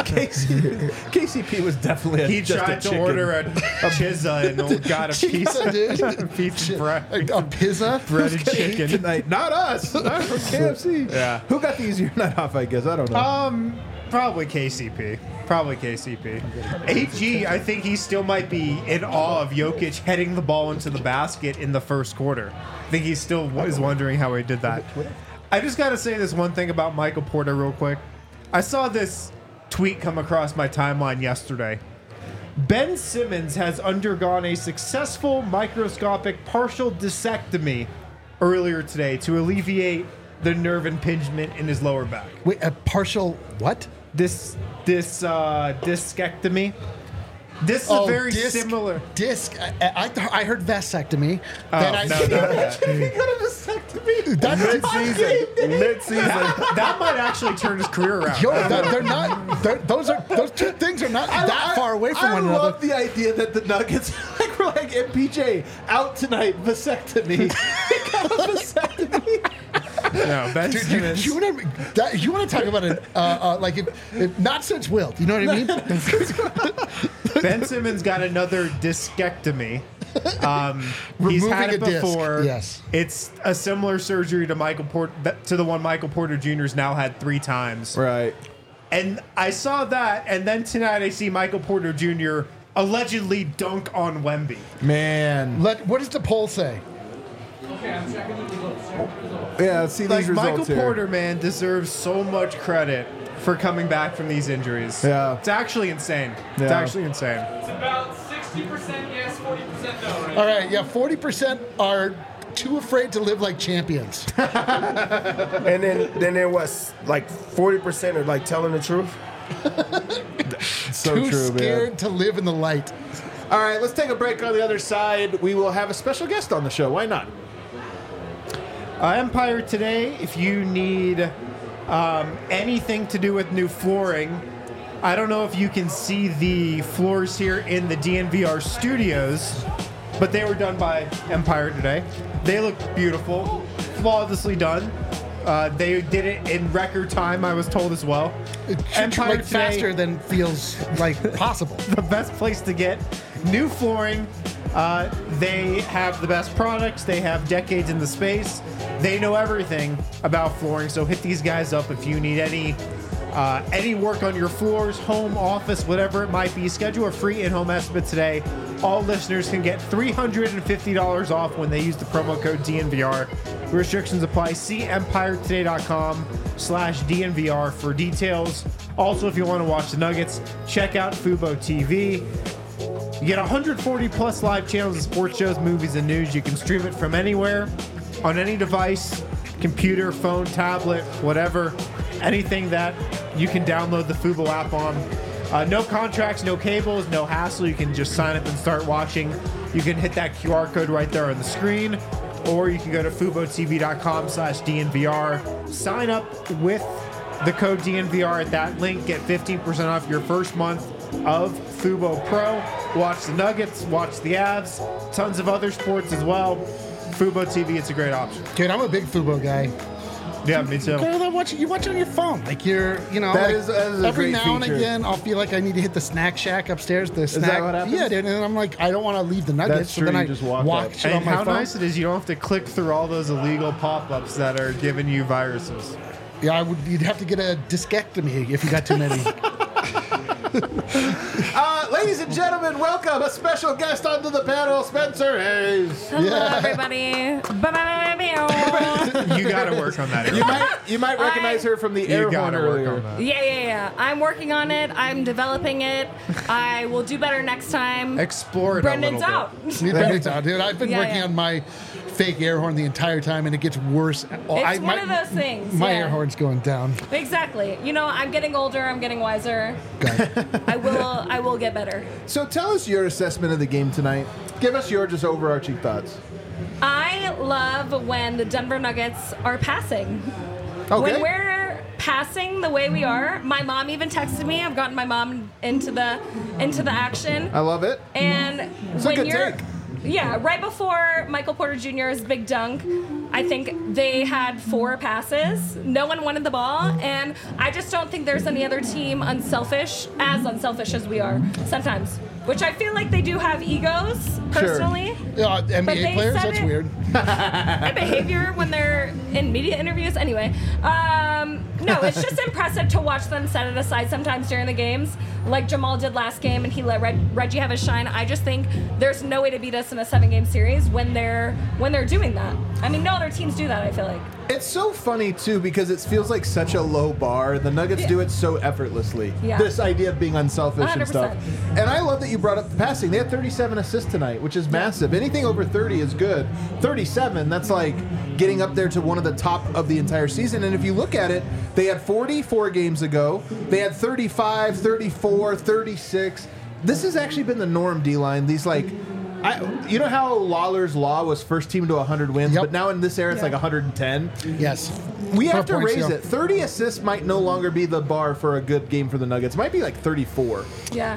[SPEAKER 1] KCP was definitely
[SPEAKER 3] He
[SPEAKER 1] just
[SPEAKER 3] tried
[SPEAKER 1] a
[SPEAKER 3] to
[SPEAKER 1] chicken.
[SPEAKER 3] order a pizza and got a piece
[SPEAKER 2] Pizza, dude.
[SPEAKER 3] a piece of bread.
[SPEAKER 2] A pizza?
[SPEAKER 3] breaded chicken.
[SPEAKER 1] tonight. Not us. Not from KFC.
[SPEAKER 3] Yeah.
[SPEAKER 1] Who got the easier night off, I guess? I don't know.
[SPEAKER 3] Probably KCP. Probably KCP. AG, I think he still might be in awe of Jokic heading the ball into the basket in the first quarter. I think he still is wondering how he did that. I just got to say this one thing about Michael Porter real quick. I saw this tweet come across my timeline yesterday. Ben Simmons has undergone a successful microscopic partial discectomy earlier today to alleviate the nerve impingement in his lower back.
[SPEAKER 2] Wait, a partial what?
[SPEAKER 3] This discectomy. This is a very similar.
[SPEAKER 2] Disc. I heard vasectomy.
[SPEAKER 3] Oh,
[SPEAKER 2] Then I,
[SPEAKER 3] no.
[SPEAKER 1] He got a vasectomy.
[SPEAKER 4] Mid-season.
[SPEAKER 3] That might actually turn his career around.
[SPEAKER 2] Yo, they're not. Those two things are not that far away from one
[SPEAKER 1] I
[SPEAKER 2] another.
[SPEAKER 1] love the idea that the Nuggets we're like MPJ out tonight vasectomy. He got a vasectomy.
[SPEAKER 3] No, Ben
[SPEAKER 2] Dude,
[SPEAKER 3] Simmons.
[SPEAKER 2] you want to talk about it? Like if not since Wilt, you know what I mean?
[SPEAKER 3] Ben Simmons got another discectomy. He's
[SPEAKER 2] Removing
[SPEAKER 3] had it
[SPEAKER 2] a disc,
[SPEAKER 3] before.
[SPEAKER 2] yes.
[SPEAKER 3] It's a similar surgery to the one Michael Porter Jr.'s now had 3 times.
[SPEAKER 1] Right.
[SPEAKER 3] And I saw that, and then tonight I see Michael Porter Jr. allegedly dunk on Wemby.
[SPEAKER 1] Man.
[SPEAKER 2] What does the poll say?
[SPEAKER 1] Yeah, let's see
[SPEAKER 3] Like
[SPEAKER 1] these results
[SPEAKER 3] Michael
[SPEAKER 1] here.
[SPEAKER 3] Porter, man, deserves so much credit for coming back from these injuries.
[SPEAKER 1] Yeah.
[SPEAKER 3] It's actually insane. It's
[SPEAKER 1] Yeah.
[SPEAKER 3] actually insane.
[SPEAKER 5] It's about 60% yes, 40% no, right?
[SPEAKER 2] All right, yeah, 40% are too afraid to live like champions.
[SPEAKER 4] And then there was like 40% are like telling the truth.
[SPEAKER 1] So
[SPEAKER 2] too
[SPEAKER 1] true,
[SPEAKER 2] scared
[SPEAKER 1] man.
[SPEAKER 2] to live in the light.
[SPEAKER 1] All right, let's take a break. On the other side, we will have a special guest on the show. Why not?
[SPEAKER 3] Empire today, if you need anything to do with new flooring, I don't know if you can see the floors here in the DNVR studios, but they were done by Empire today. They looked beautiful, flawlessly done. They did it in record time, I was told as well.
[SPEAKER 2] Empire like faster than feels like possible.
[SPEAKER 3] The best place to get new flooring. They have the best products. They have decades in the space. They know everything about flooring. So hit these guys up if you need any work on your floors, home, office, whatever it might be. Schedule a free in-home estimate today. All listeners can get $350 off when they use the promo code DNVR. Restrictions apply. See EmpireToday.com/DNVR for details. Also, if you want to watch the Nuggets, check out Fubo TV. You get 140 plus live channels of sports shows, movies, and news. You can stream it from anywhere, on any device, computer, phone, tablet, whatever. Anything that you can download the Fubo app on. No contracts, no cables, no hassle. You can just sign up and start watching. You can hit that QR code right there on the screen, or you can go to FuboTV.com/DNVR. Sign up with the code DNVR at that link. Get 15% off your first month of Fubo Pro. Watch the Nuggets, watch the Avs, tons of other sports as well. Fubo TV, it's a great option.
[SPEAKER 2] Dude, I'm a big Fubo guy.
[SPEAKER 3] Yeah, me too.
[SPEAKER 2] You watch it on your phone. Like that
[SPEAKER 1] is a
[SPEAKER 2] every
[SPEAKER 1] great
[SPEAKER 2] now and
[SPEAKER 1] feature.
[SPEAKER 2] again, I'll feel like I need to hit the snack shack upstairs.
[SPEAKER 1] that what happens?
[SPEAKER 2] Yeah, dude. And I'm like, I don't want to leave the Nuggets.
[SPEAKER 1] That's
[SPEAKER 2] so
[SPEAKER 1] true,
[SPEAKER 2] then
[SPEAKER 1] you
[SPEAKER 2] I
[SPEAKER 1] just walk
[SPEAKER 2] watch
[SPEAKER 1] up.
[SPEAKER 2] it on
[SPEAKER 3] And
[SPEAKER 2] my
[SPEAKER 3] how
[SPEAKER 2] phone.
[SPEAKER 3] nice it is you don't have to click through all those illegal pop-ups that are giving you viruses.
[SPEAKER 2] Yeah, you'd have to get a discectomy if you got too many.
[SPEAKER 1] Ladies and gentlemen, welcome a special guest onto the panel, Spencer Hayes.
[SPEAKER 6] Hello, everybody.
[SPEAKER 3] You got to work on that.
[SPEAKER 1] You might recognize her from the air
[SPEAKER 3] You
[SPEAKER 1] horn
[SPEAKER 3] got to work
[SPEAKER 1] earlier.
[SPEAKER 3] on that.
[SPEAKER 6] Yeah. I'm working on it. I'm developing it. I will do better next time.
[SPEAKER 3] Explore it
[SPEAKER 6] Brendan's
[SPEAKER 3] a little
[SPEAKER 6] out.
[SPEAKER 2] Dude, I've been working on my fake air horn the entire time, and it gets worse.
[SPEAKER 6] It's one of those things.
[SPEAKER 2] My
[SPEAKER 6] yeah.
[SPEAKER 2] air horn's going down.
[SPEAKER 6] Exactly. I'm getting older. I'm getting wiser.
[SPEAKER 2] Okay.
[SPEAKER 6] I will get better.
[SPEAKER 1] So tell us your assessment of the game tonight. Give us your just overarching thoughts.
[SPEAKER 6] I love when the Denver Nuggets are passing.
[SPEAKER 1] Okay.
[SPEAKER 6] When we're passing the way we are, my mom even texted me. I've gotten my mom into the action.
[SPEAKER 1] I love it.
[SPEAKER 6] And
[SPEAKER 1] It's a
[SPEAKER 6] when
[SPEAKER 1] good
[SPEAKER 6] you're,
[SPEAKER 1] take.
[SPEAKER 6] yeah, right before Michael Porter Jr.'s big dunk, I think they had 4 passes. No one wanted the ball, and I just don't think there's any other team as unselfish as we are sometimes. Which I feel like they do have egos, personally. But
[SPEAKER 2] NBA
[SPEAKER 6] they
[SPEAKER 2] players,
[SPEAKER 6] said
[SPEAKER 2] that's
[SPEAKER 6] it-
[SPEAKER 2] weird.
[SPEAKER 6] Their behavior when they're in media interviews. Anyway, no, it's just impressive to watch them set it aside sometimes during the games, like Jamal did last game, and he let Reggie have his shine. I just think there's no way to beat us in a 7-game series when they're doing that. I mean, no other teams do that, I feel like.
[SPEAKER 1] It's so funny too because it feels like such a low bar. The Nuggets do it so effortlessly.
[SPEAKER 6] Yeah.
[SPEAKER 1] This idea of being unselfish and
[SPEAKER 6] 100%.
[SPEAKER 1] stuff. And I love that you brought up the passing. They had 37 assists tonight, which is massive. Anything over 30 is good. 37, that's like getting up there to one of the top of the entire season. And if you look at it, they had 44 games ago. They had 35, 34, 36. This has actually been the norm, D-line. These you know how Lawler's Law was first team to 100 wins,
[SPEAKER 2] Yep.
[SPEAKER 1] but now in this era it's like 110?
[SPEAKER 2] Yes.
[SPEAKER 1] We have
[SPEAKER 2] Per
[SPEAKER 1] to
[SPEAKER 2] points,
[SPEAKER 1] raise
[SPEAKER 2] yeah.
[SPEAKER 1] it. 30 assists might no longer be the bar for a good game for the Nuggets. It might be like 34.
[SPEAKER 6] Yeah.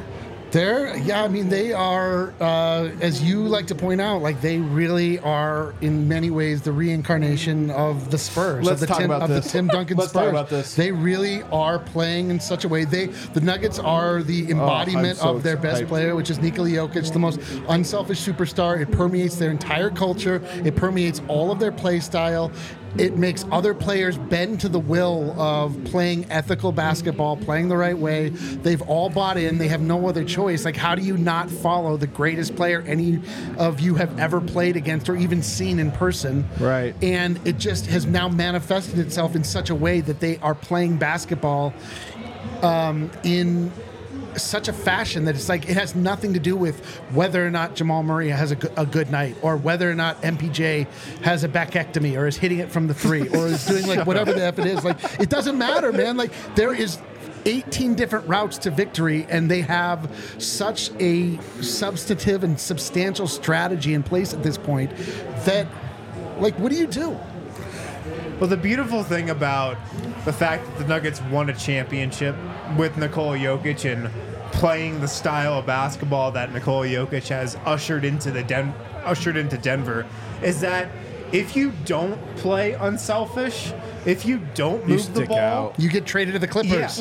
[SPEAKER 2] They are, as you like to point out, like they really are in many ways the reincarnation of the Spurs.
[SPEAKER 1] Let's
[SPEAKER 2] of the
[SPEAKER 1] talk about this.
[SPEAKER 2] the Tim Duncan
[SPEAKER 1] Let's
[SPEAKER 2] Spurs.
[SPEAKER 1] talk about this.
[SPEAKER 2] They really are playing in such a way. The Nuggets are the embodiment
[SPEAKER 1] so
[SPEAKER 2] of their best
[SPEAKER 1] hyped.
[SPEAKER 2] player, which is Nikola Jokic, the most unselfish superstar. It permeates their entire culture. It permeates all of their play style. It makes other players bend to the will of playing ethical basketball, playing the right way. They've all bought in. They have no other choice. Like, how do you not follow the greatest player any of you have ever played against or even seen in person?
[SPEAKER 1] Right.
[SPEAKER 2] And it just has now manifested itself in such a way that they are playing basketball in such a fashion that it's like it has nothing to do with whether or not Jamal Murray has a good night or whether or not MPJ has a backectomy or is hitting it from the 3 or is doing like whatever the F it is. Like, it doesn't matter, man. Like, there is 18 different routes to victory, and they have such a substantive and substantial strategy in place at this point that, like, what do you do?
[SPEAKER 3] Well, the beautiful thing about the fact that the Nuggets won a championship with Nikola Jokic and playing the style of basketball that Nikola Jokic has ushered into Denver is that if you don't play unselfish, if you don't move the
[SPEAKER 1] stick
[SPEAKER 3] ball,
[SPEAKER 1] out.
[SPEAKER 2] You get traded to the Clippers.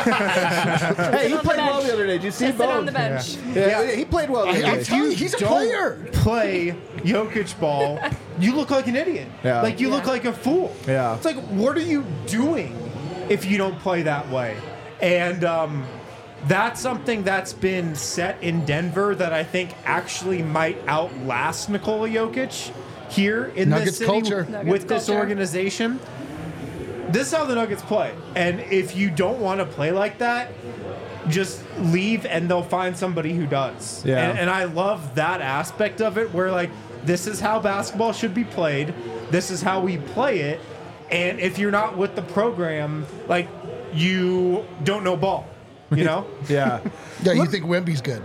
[SPEAKER 1] Hey, he
[SPEAKER 6] on the
[SPEAKER 1] played well
[SPEAKER 6] bench.
[SPEAKER 1] the other day. Did you see
[SPEAKER 6] Sit on
[SPEAKER 1] both?
[SPEAKER 6] the bench.
[SPEAKER 1] Yeah, he played well the other
[SPEAKER 2] I'm
[SPEAKER 1] day.
[SPEAKER 2] telling you, he's a
[SPEAKER 3] don't
[SPEAKER 2] player.
[SPEAKER 3] play Jokic ball, you look like an idiot.
[SPEAKER 1] Yeah.
[SPEAKER 3] Like you look
[SPEAKER 6] Yeah.
[SPEAKER 3] like a fool.
[SPEAKER 1] Yeah.
[SPEAKER 3] It's like, what are you doing if you don't play that way? And that's something that's been set in Denver that I think actually might outlast Nikola Jokic here in
[SPEAKER 2] Nuggets
[SPEAKER 3] this city
[SPEAKER 2] culture.
[SPEAKER 3] with
[SPEAKER 6] Nuggets
[SPEAKER 3] this
[SPEAKER 6] culture.
[SPEAKER 3] organization. This is how the Nuggets play. And if you don't want to play like that, just leave and they'll find somebody who does.
[SPEAKER 1] Yeah.
[SPEAKER 3] And I love that aspect of it where, like, this is how basketball should be played. This is how we play it. And if you're not with the program, like, you don't know ball. You know?
[SPEAKER 1] Yeah.
[SPEAKER 2] Yeah, you think Wemby's good.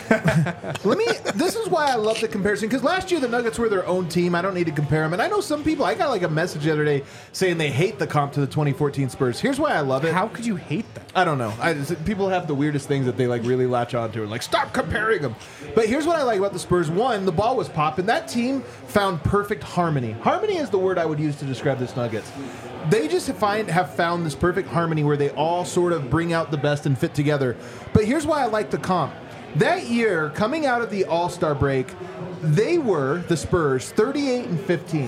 [SPEAKER 1] This is why I love the comparison, because last year the Nuggets were their own team. I don't need to compare them. And I know some people, I got like a message the other day saying they hate the comp to the 2014 Spurs. Here's why I love it.
[SPEAKER 3] How could you hate that?
[SPEAKER 1] I don't know. People have the weirdest things that they like really latch onto and like stop comparing them. But here's what I like about the Spurs. One, the ball was popping. That team found perfect harmony. Harmony is the word I would use to describe this Nuggets. They just have found this perfect harmony where they all sort of bring out the best and fit together. But here's why I like the comp. That year, coming out of the All-Star break, they were, the Spurs, 38-15.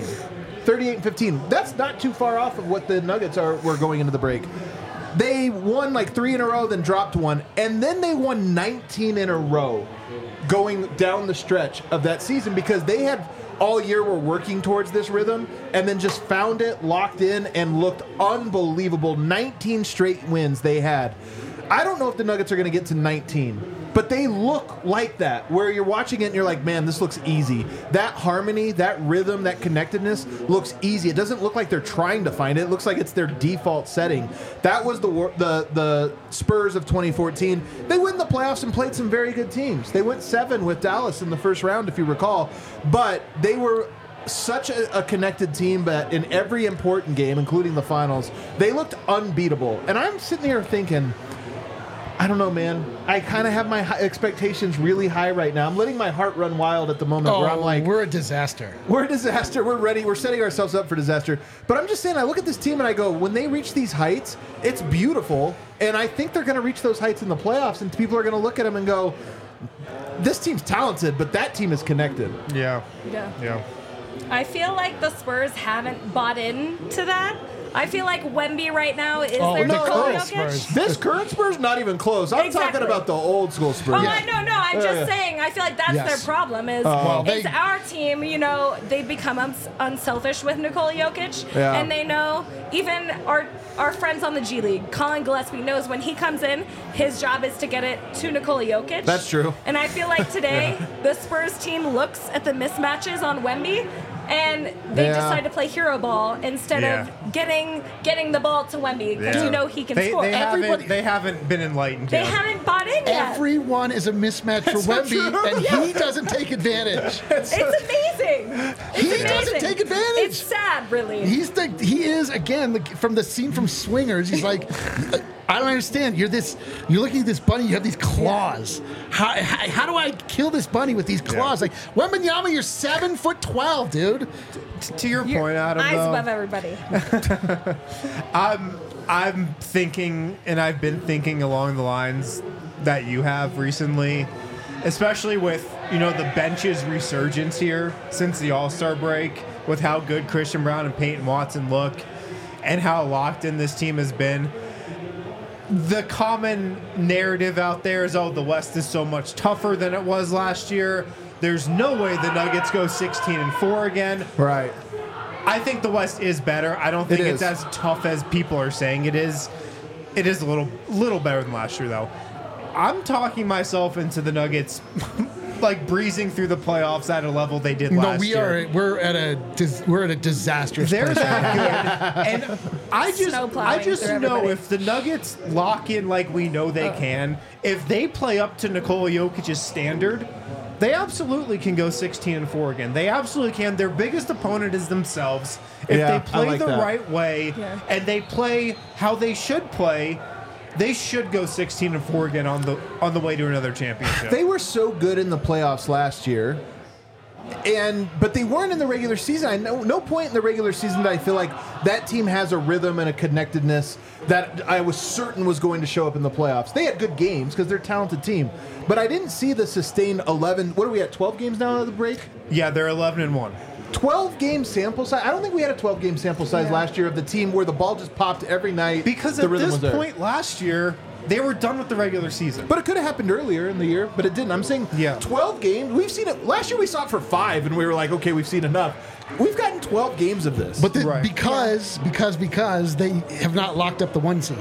[SPEAKER 1] 38-15. That's not too far off of what the Nuggets were going into the break. They won like 3 in a row, then dropped one, and then they won 19 in a row going down the stretch of that season because they had all year were working towards this rhythm and then just found it, locked in, and looked unbelievable. 19 straight wins they had. I don't know if the Nuggets are going to get to 19, but they look like that, where you're watching it and you're like, man, this looks easy. That harmony, that rhythm, that connectedness looks easy. It doesn't look like they're trying to find it. It looks like it's their default setting. That was the Spurs of 2014. They went in the playoffs and played some very good teams. They went 7 with Dallas in the first round, if you recall, but they were such a connected team, but in every important game, including the finals, they looked unbeatable. And I'm sitting here thinking, I don't know, man. I kind of have my expectations really high right now. I'm letting my heart run wild at the moment where I'm like,
[SPEAKER 2] we're a disaster.
[SPEAKER 1] we're a disaster. We're ready. We're setting ourselves up for disaster. But I'm just saying, I look at this team and I go, when they reach these heights, it's beautiful. And I think they're going to reach those heights in the playoffs. And people are going to look at them and go, this team's talented, but that team is connected.
[SPEAKER 3] Yeah.
[SPEAKER 6] Yeah. I feel like the Spurs haven't bought into that. I feel like Wemby right now is their
[SPEAKER 2] the
[SPEAKER 6] Nikola
[SPEAKER 2] current
[SPEAKER 6] Jokic.
[SPEAKER 2] Spurs.
[SPEAKER 1] This current Spurs, not even close. I'm
[SPEAKER 6] Exactly.
[SPEAKER 1] talking about the old school Spurs.
[SPEAKER 6] Oh, no, I'm just
[SPEAKER 1] yeah.
[SPEAKER 6] saying. I feel like that's
[SPEAKER 2] Yes.
[SPEAKER 6] their problem. Is
[SPEAKER 2] they-
[SPEAKER 6] our team? You know, they become unselfish with Nikola Jokic,
[SPEAKER 1] Yeah.
[SPEAKER 6] and they know even our friends on the G League, Colin Gillespie knows when he comes in, his job is to get it to Nikola Jokic.
[SPEAKER 1] That's true.
[SPEAKER 6] And I feel like today the Spurs team looks at the mismatches on Wemby. And they
[SPEAKER 1] Yeah.
[SPEAKER 6] decide to play hero ball instead of getting the ball to Wemby because you know he can score.
[SPEAKER 3] They haven't been enlightened
[SPEAKER 6] They
[SPEAKER 3] yet.
[SPEAKER 6] haven't bought in yet.
[SPEAKER 2] Everyone is a mismatch for Wemby, and he doesn't take advantage.
[SPEAKER 6] It's amazing.
[SPEAKER 2] He
[SPEAKER 6] It's
[SPEAKER 2] doesn't
[SPEAKER 6] amazing.
[SPEAKER 2] take advantage.
[SPEAKER 6] It's sad, really.
[SPEAKER 2] He is again from the scene from Swingers. He's like, I don't understand. You're looking at this bunny. You have these claws. How do I kill this bunny with these claws? Like Wembanyama, you're 7'12", dude.
[SPEAKER 3] To your point, Adam,
[SPEAKER 6] Eyes
[SPEAKER 3] though,
[SPEAKER 6] above everybody.
[SPEAKER 3] I'm thinking, and I've been thinking along the lines that you have recently, especially with, the bench's resurgence here since the All-Star break, with how good Christian Brown and Peyton Watson look and how locked in this team has been. The common narrative out there is, the West is so much tougher than it was last year. There's no way the Nuggets go 16-4 again.
[SPEAKER 1] Right.
[SPEAKER 3] I think the West is better. I don't think
[SPEAKER 1] It
[SPEAKER 3] it's
[SPEAKER 1] is.
[SPEAKER 3] as tough as people are saying it is. It is a little better than last year, though. I'm talking myself into the Nuggets like breezing through the playoffs at a level they did last year.
[SPEAKER 2] We're at a disastrous
[SPEAKER 3] They're
[SPEAKER 2] place.
[SPEAKER 3] that good. And I
[SPEAKER 6] Snow plowing
[SPEAKER 3] just
[SPEAKER 6] through
[SPEAKER 3] know
[SPEAKER 6] everybody.
[SPEAKER 3] if the Nuggets lock in like we know they can, if they play up to Nikola Jokic's standard, they absolutely can go 16-4 again. They absolutely can. Their biggest opponent is themselves. If
[SPEAKER 1] Yeah,
[SPEAKER 3] they
[SPEAKER 1] I
[SPEAKER 3] play
[SPEAKER 1] like
[SPEAKER 3] the
[SPEAKER 1] that.
[SPEAKER 3] right way
[SPEAKER 6] Yeah.
[SPEAKER 3] and they play how they should play, they should go 16-4 again on the way to another championship.
[SPEAKER 1] They were so good in the playoffs last year, but they weren't in the regular season. I know no point in the regular season that I feel like that team has a rhythm and a connectedness that I was certain was going to show up in the playoffs. They had good games because they're a talented team, but I didn't see the sustained 11. What are we at? 12 games now at the break?
[SPEAKER 3] Yeah, they're 11-1.
[SPEAKER 1] 12-game sample size. I don't think we had a 12-game sample size last year of the team where the ball just popped every night.
[SPEAKER 3] Because
[SPEAKER 1] the
[SPEAKER 3] at
[SPEAKER 1] rhythm
[SPEAKER 3] this
[SPEAKER 1] was there.
[SPEAKER 3] point last year, they were done with the regular season.
[SPEAKER 1] But it could have happened earlier in the year, but it didn't. I'm saying 12 games. We've seen it. Last year we saw it for 5, and we were like, okay, we've seen enough. We've gotten 12 games of this.
[SPEAKER 2] But because they have not locked up the 1 seed.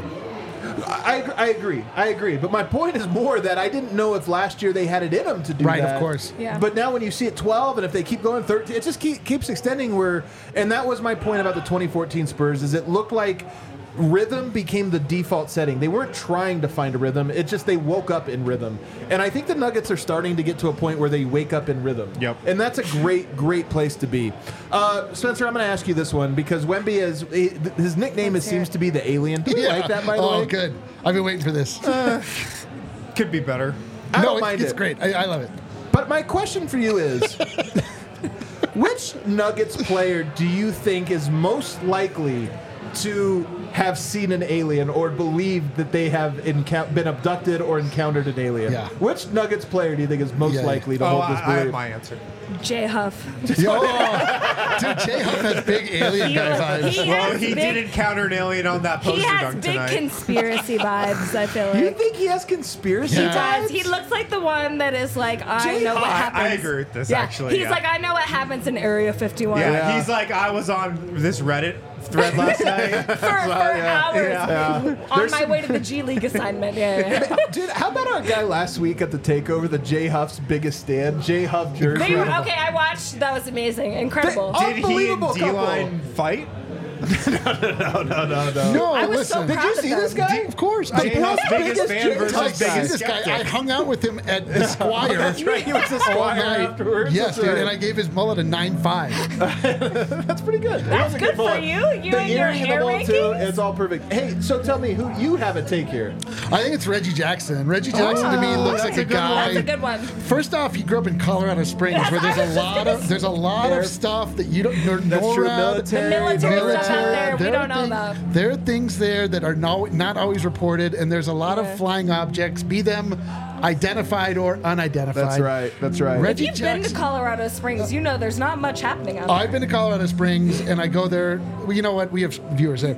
[SPEAKER 1] I agree. But my point is more that I didn't know if last year they had it in them to do that.
[SPEAKER 2] Right, of course.
[SPEAKER 6] Yeah.
[SPEAKER 1] But now when you see it 12, and if they keep going 13, it just keeps extending. And that was my point about the 2014 Spurs, is it looked like rhythm became the default setting. They weren't trying to find a rhythm. It's just they woke up in rhythm. And I think the Nuggets are starting to get to a point where they wake up in rhythm.
[SPEAKER 3] Yep.
[SPEAKER 1] And that's a great place to be. Spencer, I'm going to ask you this one because Wemby his nickname seems to be the Alien. Do you like that, by the way?
[SPEAKER 2] Oh, good. I've been waiting for this.
[SPEAKER 3] Could be better.
[SPEAKER 1] I don't mind
[SPEAKER 2] it's
[SPEAKER 1] it.
[SPEAKER 2] great. I love it.
[SPEAKER 1] But my question for you is, which Nuggets player do you think is most likely to have seen an alien or believe that they have been abducted or encountered an alien?
[SPEAKER 2] Yeah.
[SPEAKER 1] Which Nuggets player do you think is most likely to hold this
[SPEAKER 3] I have
[SPEAKER 1] belief?
[SPEAKER 3] my answer.
[SPEAKER 6] J Huff.
[SPEAKER 2] Dude, J Huff has big alien guy vibes.
[SPEAKER 3] Well, he did encounter an alien on that poster
[SPEAKER 6] He has
[SPEAKER 3] dunk
[SPEAKER 6] big
[SPEAKER 3] tonight.
[SPEAKER 6] conspiracy vibes, I feel
[SPEAKER 1] You
[SPEAKER 6] like.
[SPEAKER 1] think he has conspiracy
[SPEAKER 2] Yeah.
[SPEAKER 6] He does.
[SPEAKER 1] vibes?
[SPEAKER 6] He looks like the one that is like, I know what happens.
[SPEAKER 3] I agree with this,
[SPEAKER 6] Yeah.
[SPEAKER 3] actually.
[SPEAKER 6] He's like, I know what happens in Area 51.
[SPEAKER 3] Yeah, he's like, I was on this Reddit thread last night.
[SPEAKER 6] For hours. On my way to the G League assignment. Yeah.
[SPEAKER 1] Dude, how about our guy last week at the takeover, the J Huff's biggest stand, J Huff jersey?
[SPEAKER 6] They were, okay, I watched. That was amazing. Incredible.
[SPEAKER 3] Did he and
[SPEAKER 1] Unbelievable
[SPEAKER 3] D-Line fight?
[SPEAKER 2] No,
[SPEAKER 6] I was so
[SPEAKER 2] listen.
[SPEAKER 6] proud
[SPEAKER 1] Did you
[SPEAKER 6] of
[SPEAKER 1] see
[SPEAKER 6] them.
[SPEAKER 1] this guy?
[SPEAKER 2] Of course.
[SPEAKER 3] J-Huff's biggest fan
[SPEAKER 1] J-Huff
[SPEAKER 3] versus
[SPEAKER 1] guy.
[SPEAKER 3] biggest
[SPEAKER 2] This guy,
[SPEAKER 3] skeptic.
[SPEAKER 2] I hung out with him at the Squire.
[SPEAKER 1] That's right. He was a
[SPEAKER 2] all
[SPEAKER 1] squire
[SPEAKER 2] night.
[SPEAKER 1] afterwards.
[SPEAKER 2] Yes,
[SPEAKER 1] That's
[SPEAKER 2] dude,
[SPEAKER 1] right.
[SPEAKER 2] and I gave his mullet a 9.5.
[SPEAKER 1] That's pretty good.
[SPEAKER 6] That's good for you. You
[SPEAKER 1] The
[SPEAKER 6] and your
[SPEAKER 1] earring and
[SPEAKER 6] hair
[SPEAKER 1] the ball, too.
[SPEAKER 6] rankings?
[SPEAKER 1] It's all perfect. Hey, so tell me who you have a take here.
[SPEAKER 2] I think it's Reggie Jackson. Reggie Jackson to me looks like a guy.
[SPEAKER 6] That's a good one.
[SPEAKER 2] First off, he grew up in Colorado Springs, where there's a lot of stuff that you don't know.
[SPEAKER 1] That's true.
[SPEAKER 2] NORAD,
[SPEAKER 6] The military stuff out there, we
[SPEAKER 2] there
[SPEAKER 6] don't
[SPEAKER 2] are
[SPEAKER 6] know
[SPEAKER 2] things-
[SPEAKER 6] about.
[SPEAKER 2] There are things there that are not always reported, and there's a lot of flying objects, be them identified or unidentified.
[SPEAKER 1] That's right.
[SPEAKER 2] Reggie
[SPEAKER 6] You've been to
[SPEAKER 2] Jackson.
[SPEAKER 6] Colorado Springs. You know there's not much happening out there.
[SPEAKER 2] I've been to Colorado Springs, and I go there. Well, you know what? We have viewers there.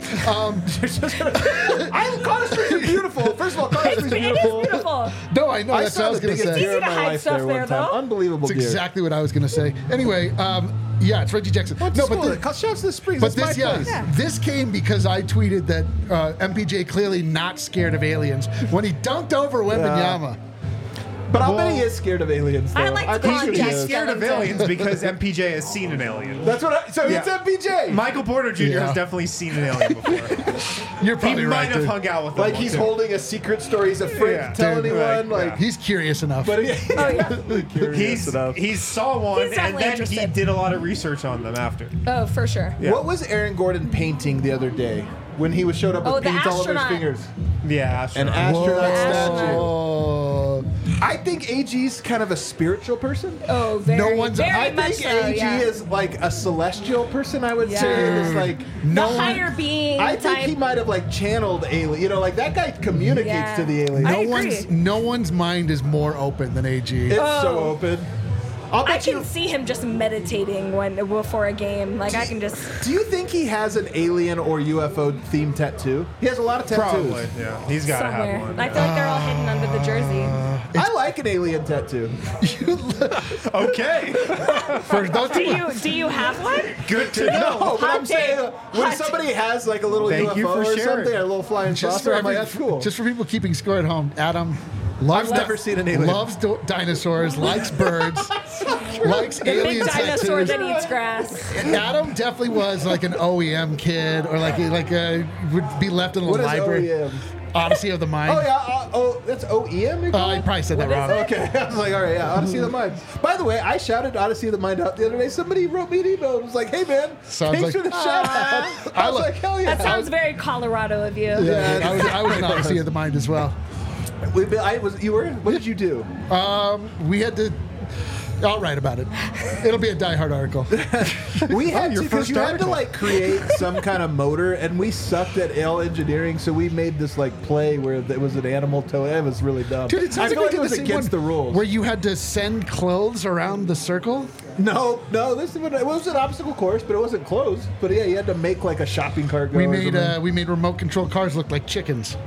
[SPEAKER 1] Colorado Springs is beautiful. First of all, Colorado Springs is
[SPEAKER 6] It is
[SPEAKER 1] beautiful.
[SPEAKER 6] beautiful.
[SPEAKER 2] No, I know.
[SPEAKER 1] I
[SPEAKER 2] That's what
[SPEAKER 1] saw
[SPEAKER 2] I was
[SPEAKER 1] the
[SPEAKER 2] going to
[SPEAKER 1] biggest
[SPEAKER 2] say.
[SPEAKER 1] deer in
[SPEAKER 6] Easy to
[SPEAKER 1] my
[SPEAKER 6] hide
[SPEAKER 1] life
[SPEAKER 6] stuff
[SPEAKER 1] there one
[SPEAKER 6] there,
[SPEAKER 1] time.
[SPEAKER 6] though.
[SPEAKER 1] Unbelievable
[SPEAKER 2] That's
[SPEAKER 1] deer.
[SPEAKER 2] exactly what I was going to say. Anyway, yeah, it's Reggie Jackson.
[SPEAKER 1] What's
[SPEAKER 2] No,
[SPEAKER 1] the
[SPEAKER 2] but
[SPEAKER 1] school?
[SPEAKER 2] the-
[SPEAKER 1] Shouts to the Springs.
[SPEAKER 2] But
[SPEAKER 1] That's
[SPEAKER 2] this,
[SPEAKER 1] my place.
[SPEAKER 2] this came because I tweeted that MPJ clearly not scared of aliens when he dunked over Wembanyama.
[SPEAKER 1] But I'll bet he is scared of aliens. Though.
[SPEAKER 6] I like to call
[SPEAKER 1] think
[SPEAKER 6] him
[SPEAKER 1] he
[SPEAKER 6] Jack
[SPEAKER 1] is.
[SPEAKER 3] Scared of
[SPEAKER 6] Skellington.
[SPEAKER 3] aliens because MPJ has seen an alien.
[SPEAKER 1] That's what. So
[SPEAKER 3] Yeah.
[SPEAKER 1] it's MPJ.
[SPEAKER 3] Michael Porter Jr.
[SPEAKER 2] Yeah.
[SPEAKER 3] has definitely seen an alien before.
[SPEAKER 2] You're
[SPEAKER 3] He
[SPEAKER 2] probably
[SPEAKER 3] might
[SPEAKER 2] right.
[SPEAKER 3] have
[SPEAKER 2] dude.
[SPEAKER 3] hung out with them.
[SPEAKER 1] Like he's
[SPEAKER 3] once.
[SPEAKER 1] holding a secret story. He's afraid
[SPEAKER 3] Yeah.
[SPEAKER 1] to tell
[SPEAKER 2] Dude,
[SPEAKER 1] anyone.
[SPEAKER 3] right,
[SPEAKER 1] Like,
[SPEAKER 2] He's curious enough.
[SPEAKER 1] but
[SPEAKER 6] Oh, yeah.
[SPEAKER 3] He saw one
[SPEAKER 6] He's
[SPEAKER 3] and
[SPEAKER 6] definitely
[SPEAKER 3] then he
[SPEAKER 6] interested.
[SPEAKER 3] did a lot of research on them after.
[SPEAKER 6] Oh, for sure.
[SPEAKER 3] Yeah.
[SPEAKER 1] What was Aaron Gordon painting the other day when he was showed up
[SPEAKER 6] Oh,
[SPEAKER 1] with
[SPEAKER 6] the
[SPEAKER 1] paint all over his
[SPEAKER 6] astronaut.
[SPEAKER 1] fingers?
[SPEAKER 3] Yeah,
[SPEAKER 1] An
[SPEAKER 3] astronaut.
[SPEAKER 1] astronaut statue.
[SPEAKER 2] Oh.
[SPEAKER 1] I think AG's kind of a spiritual person.
[SPEAKER 6] Oh, very,
[SPEAKER 2] No one's-
[SPEAKER 6] very
[SPEAKER 1] I
[SPEAKER 6] much
[SPEAKER 1] think
[SPEAKER 6] so,
[SPEAKER 1] AG
[SPEAKER 6] yeah.
[SPEAKER 1] is like a celestial person. I would say
[SPEAKER 6] Yeah.
[SPEAKER 1] is like.
[SPEAKER 6] The higher being
[SPEAKER 1] I think
[SPEAKER 6] type.
[SPEAKER 1] he might have like channeled alien. You know, like that guy communicates
[SPEAKER 6] Yeah.
[SPEAKER 1] to the alien.
[SPEAKER 6] I agree.
[SPEAKER 2] No one's mind is more open than AG.
[SPEAKER 1] It's so
[SPEAKER 6] Oh.
[SPEAKER 1] open. I'll
[SPEAKER 6] I
[SPEAKER 1] bet you.
[SPEAKER 6] can see him just meditating before a game. Like I can just.
[SPEAKER 1] Do you think he has an alien or UFO themed tattoo? He has a lot of tattoos.
[SPEAKER 3] Probably, yeah. He's got to
[SPEAKER 6] Somewhere.
[SPEAKER 3] have one.
[SPEAKER 6] I feel like they're all hidden under the jersey.
[SPEAKER 1] I like an alien tattoo.
[SPEAKER 3] Okay.
[SPEAKER 2] For those
[SPEAKER 6] Do
[SPEAKER 2] people,
[SPEAKER 6] you have one?
[SPEAKER 3] Good to know.
[SPEAKER 1] No, but
[SPEAKER 6] Hot
[SPEAKER 1] I'm saying
[SPEAKER 6] take.
[SPEAKER 1] when
[SPEAKER 6] Hot
[SPEAKER 1] somebody has like a little
[SPEAKER 3] Thank you
[SPEAKER 1] UFO
[SPEAKER 3] for
[SPEAKER 1] or
[SPEAKER 3] sharing.
[SPEAKER 1] something, a little flying
[SPEAKER 2] just
[SPEAKER 1] saucer,
[SPEAKER 2] for,
[SPEAKER 1] I'm like, that's cool.
[SPEAKER 2] just for people keeping score at home, Adam loves
[SPEAKER 1] I've never seen an alien.
[SPEAKER 2] Loves dinosaurs, likes birds, likes
[SPEAKER 6] The big
[SPEAKER 2] alien
[SPEAKER 6] dinosaur
[SPEAKER 2] tattoos.
[SPEAKER 6] that eats grass.
[SPEAKER 2] Adam definitely was like an OEM kid, or like would be left in a
[SPEAKER 1] What is
[SPEAKER 2] library.
[SPEAKER 1] OEM?
[SPEAKER 2] Odyssey of the Mind.
[SPEAKER 1] Oh yeah, that's OEM.
[SPEAKER 2] I probably said that wrong.
[SPEAKER 1] Okay, I was like, all right, yeah, Odyssey of the Mind. By the way, I shouted Odyssey of the Mind out the other day. Somebody wrote me an email and was like, hey man,
[SPEAKER 2] Sounds
[SPEAKER 1] thanks
[SPEAKER 2] like-
[SPEAKER 1] for the shout out. I was like, hell yeah.
[SPEAKER 6] That sounds very Colorado of you.
[SPEAKER 2] Yeah, I was an Odyssey of the Mind as well.
[SPEAKER 1] You were? What did you do?
[SPEAKER 2] We had to. I'll write about it. It'll be a Die Hard article.
[SPEAKER 1] We had
[SPEAKER 3] your
[SPEAKER 1] to, because
[SPEAKER 3] first
[SPEAKER 1] you had to
[SPEAKER 3] article.
[SPEAKER 1] like create some kind of motor, and we sucked at ale engineering, so we made this like play where it was an animal toe. It was really dumb.
[SPEAKER 2] Dude, it sounds
[SPEAKER 1] I feel
[SPEAKER 2] like
[SPEAKER 1] like it was
[SPEAKER 2] the same
[SPEAKER 1] against
[SPEAKER 2] one
[SPEAKER 1] the rules.
[SPEAKER 2] Where you had to send clothes around the circle.
[SPEAKER 1] No, it was an obstacle course, but it wasn't closed. But yeah, you had to make like a shopping cart go.
[SPEAKER 2] We
[SPEAKER 1] or
[SPEAKER 2] made
[SPEAKER 1] something.
[SPEAKER 2] remote control cars look like chickens.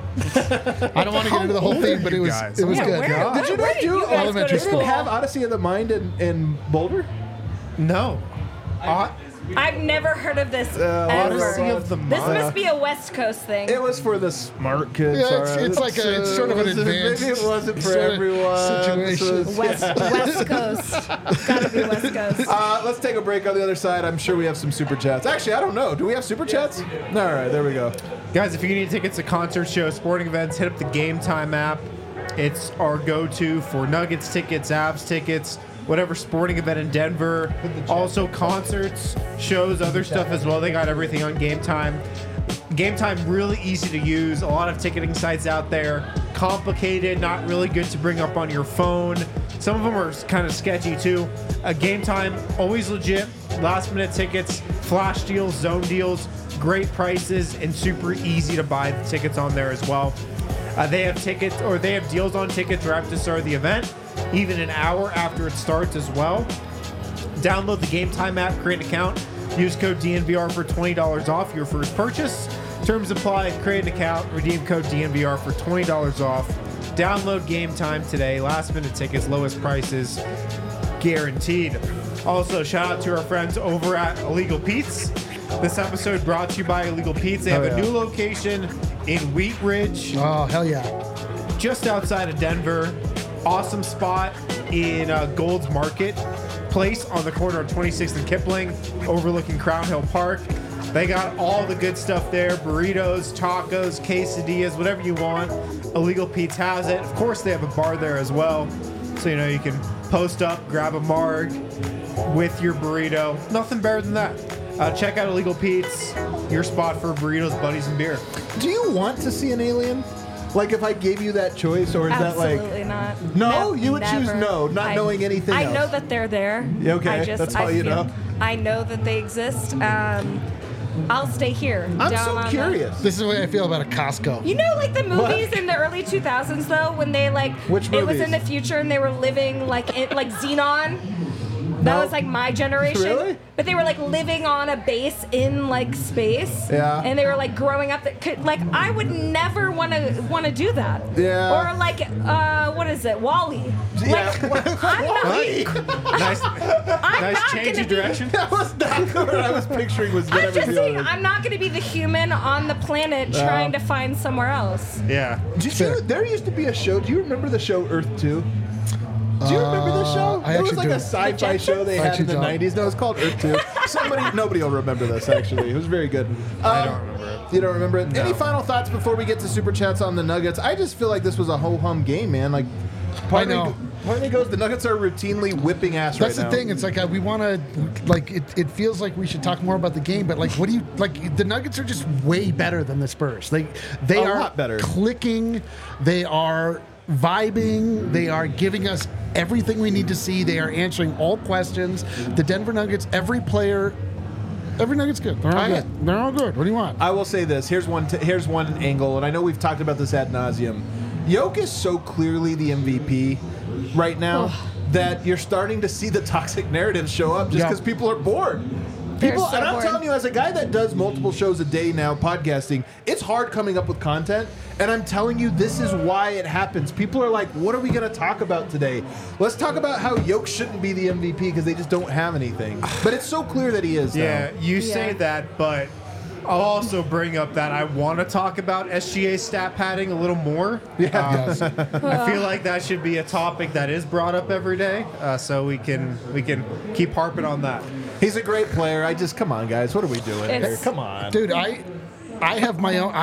[SPEAKER 2] I don't want to get into the whole thing, but it was
[SPEAKER 3] guys?
[SPEAKER 2] it was
[SPEAKER 6] Yeah,
[SPEAKER 2] good.
[SPEAKER 6] where-
[SPEAKER 1] Did you
[SPEAKER 6] where
[SPEAKER 1] not
[SPEAKER 6] did
[SPEAKER 1] do
[SPEAKER 6] you guys go to
[SPEAKER 2] elementary
[SPEAKER 1] They
[SPEAKER 2] school?
[SPEAKER 1] didn't have Odyssey of the Mind in Boulder?
[SPEAKER 3] No.
[SPEAKER 6] I've never heard of this
[SPEAKER 3] Odyssey
[SPEAKER 6] ever.
[SPEAKER 3] of the
[SPEAKER 6] This
[SPEAKER 3] Mind.
[SPEAKER 6] must be a West Coast thing.
[SPEAKER 1] It was for the smart kids.
[SPEAKER 2] Yeah,
[SPEAKER 1] alright.
[SPEAKER 2] it's like it's sort of an advanced.
[SPEAKER 1] Maybe it wasn't for
[SPEAKER 2] sort of
[SPEAKER 1] everyone.
[SPEAKER 2] situation.
[SPEAKER 1] This was-
[SPEAKER 6] West Coast. Gotta be West Coast.
[SPEAKER 1] Let's take a break on the other side. I'm sure we have some super chats. Actually, I don't know. Do we have super chats? All right, there we go.
[SPEAKER 3] Guys, if you need tickets to concert shows, sporting events, hit up the Game Time app. It's our go-to for Nuggets tickets, Avs tickets, whatever sporting event in Denver. Also concerts, shows, other stuff as well. They got everything on Game Time. Game Time really easy to use. A lot of ticketing sites out there. Complicated, not really good to bring up on your phone. Some of them are kind of sketchy too. Game Time, always legit. Last minute tickets, flash deals, zone deals, great prices, and super easy to buy the tickets on there as well. They have tickets, or they have deals on tickets right after the start of the event, even an hour after it starts as well. Download the Game Time app, create an account, use code DNVR for $20 off your first purchase. Terms apply, create an account, redeem code DNVR for $20 off. Download Game Time today. Last minute tickets, lowest prices, guaranteed. Also, shout out to our friends over at Illegal Pete's. This episode brought to you by Illegal Pete's. They have a new location in Wheat Ridge,
[SPEAKER 2] Oh hell yeah!
[SPEAKER 3] just outside of Denver. Awesome spot in Gold's Market Place on the corner of 26th and Kipling, overlooking Crown Hill Park. They got all the good stuff there: burritos, tacos, quesadillas, whatever you want. Illegal Pete's has it. Of course, they have a bar there as well, so you can post up, grab a marg with your burrito. Nothing better than that. Check out Illegal Pete's, your spot for burritos, buddies, and beer.
[SPEAKER 1] Do you want to see an alien? Like if I gave you that choice, or is
[SPEAKER 6] Absolutely not.
[SPEAKER 1] No, you would choose
[SPEAKER 6] never.
[SPEAKER 1] no, not knowing anything
[SPEAKER 6] I
[SPEAKER 1] else.
[SPEAKER 6] know that they're there.
[SPEAKER 1] Yeah, okay, that's all you know.
[SPEAKER 6] I know that they exist. I'll stay here.
[SPEAKER 1] I'm
[SPEAKER 6] down
[SPEAKER 1] so
[SPEAKER 6] on
[SPEAKER 1] curious.
[SPEAKER 2] This is the way I feel about a Costco.
[SPEAKER 6] You know, like the movies in the early 2000s, though, when they
[SPEAKER 1] Which
[SPEAKER 6] it was
[SPEAKER 1] movies?
[SPEAKER 6] in the future and they were living like Xenon. That
[SPEAKER 1] No.
[SPEAKER 6] was like my generation.
[SPEAKER 1] Really?
[SPEAKER 6] But they were like living on a base in like space.
[SPEAKER 1] Yeah.
[SPEAKER 6] And they were like growing up. Like I would never want to do that.
[SPEAKER 1] Yeah.
[SPEAKER 6] Or like what is it, Wall-E?
[SPEAKER 1] Yeah.
[SPEAKER 6] I'm not.
[SPEAKER 3] Nice,
[SPEAKER 6] I'm
[SPEAKER 3] nice
[SPEAKER 6] not
[SPEAKER 3] change
[SPEAKER 6] gonna
[SPEAKER 3] of
[SPEAKER 6] be-
[SPEAKER 3] direction.
[SPEAKER 1] That was not what I was picturing. Was
[SPEAKER 6] I'm
[SPEAKER 1] whatever
[SPEAKER 6] just
[SPEAKER 1] the
[SPEAKER 6] saying,
[SPEAKER 1] other-
[SPEAKER 6] I'm not going to be the human on the planet trying to find somewhere else.
[SPEAKER 3] Yeah.
[SPEAKER 1] Did you? There used to be a show. Do you remember the show Earth 2? Do you remember this show?
[SPEAKER 2] I
[SPEAKER 1] It was
[SPEAKER 2] actually
[SPEAKER 1] like
[SPEAKER 2] do.
[SPEAKER 1] a sci-fi
[SPEAKER 6] The
[SPEAKER 1] show they
[SPEAKER 2] I
[SPEAKER 1] had in
[SPEAKER 2] actually
[SPEAKER 1] the
[SPEAKER 2] don't.
[SPEAKER 1] 90s. No, it's called Earth 2. Nobody will remember this, actually. It was very good.
[SPEAKER 3] I don't remember it.
[SPEAKER 1] You don't remember it?
[SPEAKER 3] No.
[SPEAKER 1] Any final thoughts before we get to Super Chats on the Nuggets? I just feel like this was a ho-hum game, man. Like, part of me goes, the Nuggets are routinely whipping ass
[SPEAKER 2] That's
[SPEAKER 1] right now.
[SPEAKER 2] the thing. It's like we want to, like, it feels like we should talk more about the game, but like, what do you like? The Nuggets are just way better than the Spurs. They
[SPEAKER 1] A
[SPEAKER 2] are
[SPEAKER 1] lot better.
[SPEAKER 2] clicking. They are vibing. They are giving us everything we need to see. They are answering all questions. The Denver Nuggets, every Nugget's good. They're all good. They're all good. What do you want?
[SPEAKER 1] I will say this. Here's one angle, and I know we've talked about this ad nauseum. Yoke is so clearly the MVP right now that you're starting to see the toxic narrative show up just
[SPEAKER 2] Yeah.
[SPEAKER 1] because people are bored.
[SPEAKER 6] They're
[SPEAKER 1] People,
[SPEAKER 6] so
[SPEAKER 1] and I'm
[SPEAKER 6] bored.
[SPEAKER 1] telling you, as a guy that does multiple shows a day now, podcasting, it's hard coming up with content. And I'm telling you, this is why it happens. People are like, what are we going to talk about today? Let's talk about how Yoke shouldn't be the MVP because they just don't have anything. But it's so clear that he is now.
[SPEAKER 3] Yeah, you say
[SPEAKER 6] Yeah.
[SPEAKER 3] that, but I'll also bring up that I want to talk about SGA stat padding a little more.
[SPEAKER 2] Yes.
[SPEAKER 3] I feel like that should be a topic that is brought up every day, so we can keep harping on that.
[SPEAKER 1] He's a great player. Come on, guys. What are we doing here?
[SPEAKER 6] It's-
[SPEAKER 1] Come on.
[SPEAKER 2] Dude, I have my own.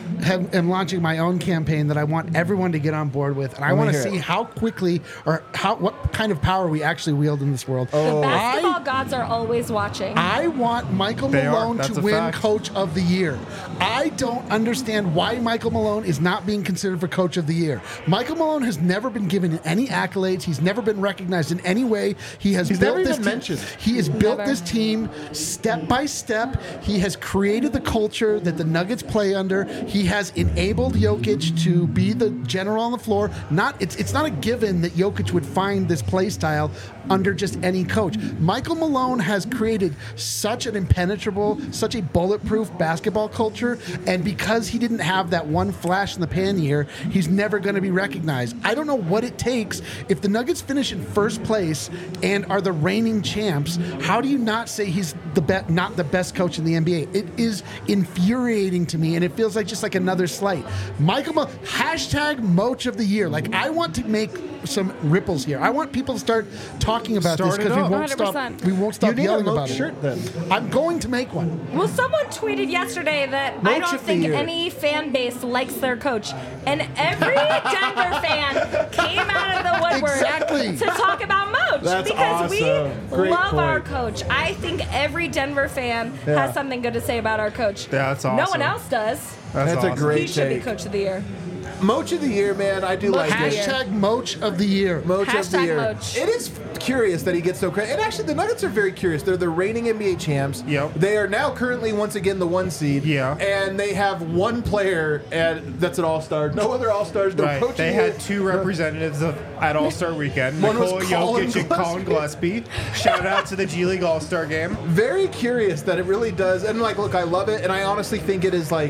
[SPEAKER 2] am launching my own campaign that I want everyone to get on board with, and I want to see how quickly or what kind of power we actually wield in this world.
[SPEAKER 6] The basketball gods are always watching.
[SPEAKER 2] I want Michael Malone to win Coach of the Year. I don't understand why Michael Malone is not being considered for Coach of the Year. Michael Malone has never been given any accolades. He's never been recognized in any way. He's built this team. He has built this team step by step. He has created the culture that the Nuggets play under. He has enabled Jokic to be the general on the floor. It's not a given that Jokic would find this play style under just any coach. Michael Malone has created such an impenetrable, such a bulletproof basketball culture, and because he didn't have that one flash in the pan year, he's never going to be recognized. I don't know what it takes. If the Nuggets finish in first place and are the reigning champs, how do you not say he's not the best coach in the NBA? It is infuriating to me, and it feels like just like another slight. Michael Malone, hashtag Moach of the Year. Like, I want to make some ripples here. I want people to start talking about this because we won't 100%. Stop. We won't stop yelling about it.
[SPEAKER 1] Shirt, then.
[SPEAKER 2] I'm going to make one.
[SPEAKER 6] Well, someone tweeted yesterday that I don't think any fan base likes their coach, and every Denver fan came out of the woodwork to talk about Moach because we love our coach. I think every Denver fan has something good to say about our coach.
[SPEAKER 3] Yeah, that's awesome.
[SPEAKER 6] No one else does.
[SPEAKER 1] That's awesome. A great
[SPEAKER 6] He should be Coach of the Year.
[SPEAKER 1] Moach of the Year, man. I do like it.
[SPEAKER 2] Hashtag Moach of the Year.
[SPEAKER 1] Moach of the Year.
[SPEAKER 6] Moach.
[SPEAKER 1] It is curious that he gets so credit. And actually, the Nuggets are very curious. They're the reigning NBA champs.
[SPEAKER 3] Yep.
[SPEAKER 1] They are now currently, once again, the 1 seed.
[SPEAKER 3] Yeah.
[SPEAKER 1] And they have one player that's an all-star. No other all-stars. No
[SPEAKER 3] right.
[SPEAKER 1] coach.
[SPEAKER 3] They had two representatives at All-Star Weekend.
[SPEAKER 1] One
[SPEAKER 3] Nikola
[SPEAKER 1] was Colin
[SPEAKER 3] Jokic and Colin Gillespie. Shout out to the G League All-Star game.
[SPEAKER 1] Very curious that it really does. And, like, look, I love it. And I honestly think it is, like,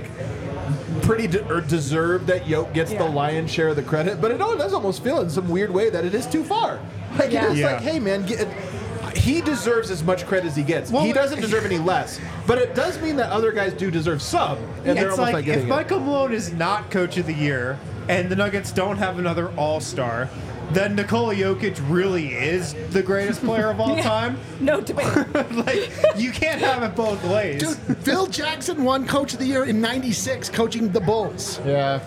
[SPEAKER 1] pretty deserved that Yoke gets the lion's share of the credit, but it does almost feel in some weird way that it is too far. Like, it is like, hey, man, he deserves as much credit as he gets. He doesn't deserve any less, but it does mean that other guys do deserve some, and they're almost like
[SPEAKER 3] if Michael Malone is not Coach of the Year and the Nuggets don't have another All-Star, then Nikola Jokic really is the greatest player of all time.
[SPEAKER 6] No debate.
[SPEAKER 3] Like, you can't have it both ways.
[SPEAKER 2] Dude, Phil Jackson won Coach of the Year in '96 coaching the Bulls.
[SPEAKER 1] Yeah.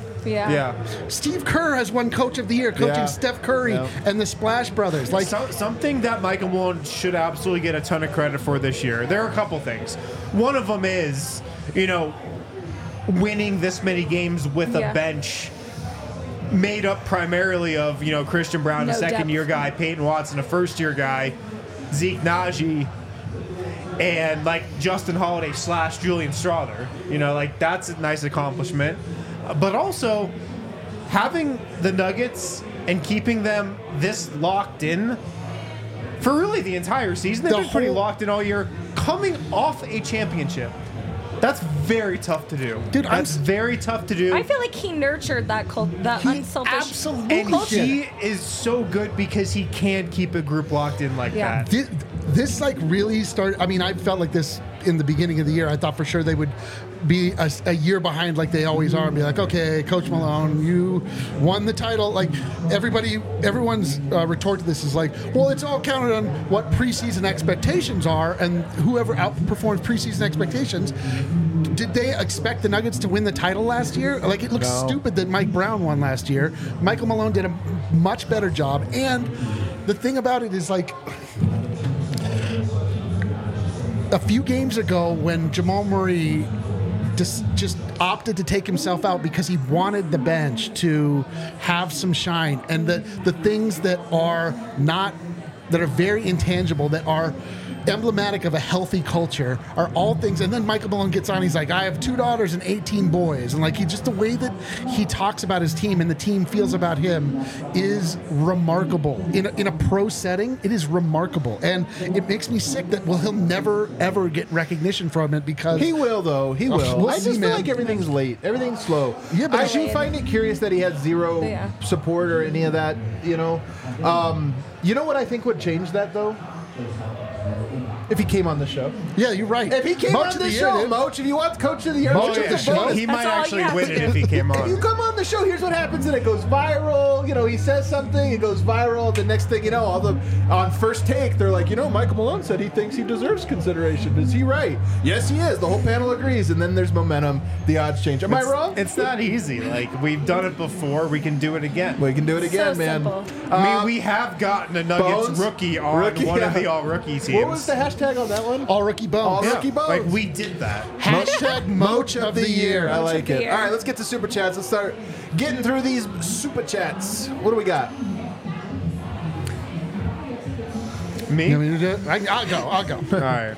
[SPEAKER 2] Steve Kerr has won Coach of the Year coaching Steph Curry and the Splash Brothers. Like
[SPEAKER 3] something that Michael Malone should absolutely get a ton of credit for this year. There are a couple things. One of them is, winning this many games with a bench made up primarily of, Christian Brown, a second-year guy, Peyton Watson, a first-year guy, Zeke Naji, and, Justin Holiday / Julian Strawther. That's a nice accomplishment. But also, having the Nuggets and keeping them this locked in for really the entire season. They've been pretty locked in all year, coming off a championship. That's very tough to do.
[SPEAKER 2] Dude,
[SPEAKER 3] that's very tough to do.
[SPEAKER 6] I feel like he nurtured that unselfish
[SPEAKER 2] absolutely
[SPEAKER 6] culture.
[SPEAKER 3] And he is so good because he can keep a group locked in like that.
[SPEAKER 2] This really started. I mean, I felt like this in the beginning of the year. I thought for sure they would be a year behind like they always are and be like, okay, Coach Malone, you won the title. Like everyone's retort to this is like, well, it's all counted on what preseason expectations are, and whoever outperforms preseason expectations. Did they expect the Nuggets to win the title last year? Like, it looks stupid that Mike Brown won last year. Michael Malone did a much better job. And the thing about it is, like, a few games ago when Jamal Murray just opted to take himself out because he wanted the bench to have some shine, and the things that are very intangible, that are emblematic of a healthy culture, are all things. And then Michael Malone gets on, he's like, I have 2 daughters and 18 boys, and just the way that he talks about his team and the team feels about him is remarkable. In a pro setting, it is remarkable, and it makes me sick that he'll never ever get recognition from it, because
[SPEAKER 1] he will, though. He will.
[SPEAKER 2] We'll
[SPEAKER 1] I just feel like everything's late, everything's slow.
[SPEAKER 2] Yeah, but
[SPEAKER 1] I do find it curious that he had zero support or any of that. You know what I think would change that, though? if he came on the show.
[SPEAKER 2] Yeah, you're right.
[SPEAKER 1] If he came
[SPEAKER 2] Moach
[SPEAKER 1] on
[SPEAKER 2] of
[SPEAKER 1] the
[SPEAKER 2] the year,
[SPEAKER 1] show,
[SPEAKER 2] dude.
[SPEAKER 1] Moach, if you want Coach of the Year,
[SPEAKER 2] Moach
[SPEAKER 1] Moach
[SPEAKER 2] of
[SPEAKER 1] of
[SPEAKER 2] the
[SPEAKER 1] the
[SPEAKER 2] show.
[SPEAKER 1] bonus.
[SPEAKER 3] He might
[SPEAKER 6] That's all you
[SPEAKER 3] actually
[SPEAKER 6] have
[SPEAKER 3] win
[SPEAKER 6] to
[SPEAKER 3] it
[SPEAKER 6] do.
[SPEAKER 3] if he came
[SPEAKER 1] If you
[SPEAKER 3] on.
[SPEAKER 1] come on the show, here's what happens, and it goes viral. You know, he says something, it goes viral. The next thing you know, on First Take, they're like, Michael Malone said he thinks he deserves consideration. Is he right? Yes, he is. The whole panel agrees, and then there's momentum. The odds change. Am I wrong?
[SPEAKER 3] It's not easy. Like, we've done it before. We can do it again.
[SPEAKER 1] We can do it again,
[SPEAKER 6] So
[SPEAKER 1] man.
[SPEAKER 6] simple.
[SPEAKER 3] I mean, we have gotten a Nuggets
[SPEAKER 1] Bones?
[SPEAKER 3] rookie on one of the all-rookie teams.
[SPEAKER 1] What was the hashtag on that one?
[SPEAKER 2] All rookie bones.
[SPEAKER 1] All rookie bones.
[SPEAKER 3] Like, we did that.
[SPEAKER 2] Hashtag Moach of the year.
[SPEAKER 1] I like
[SPEAKER 6] the
[SPEAKER 1] it.
[SPEAKER 6] year.
[SPEAKER 1] All right, let's get to super chats. Let's start getting through these super chats. What do we got?
[SPEAKER 3] Me?
[SPEAKER 2] You want me to do it? I'll go.
[SPEAKER 3] All right.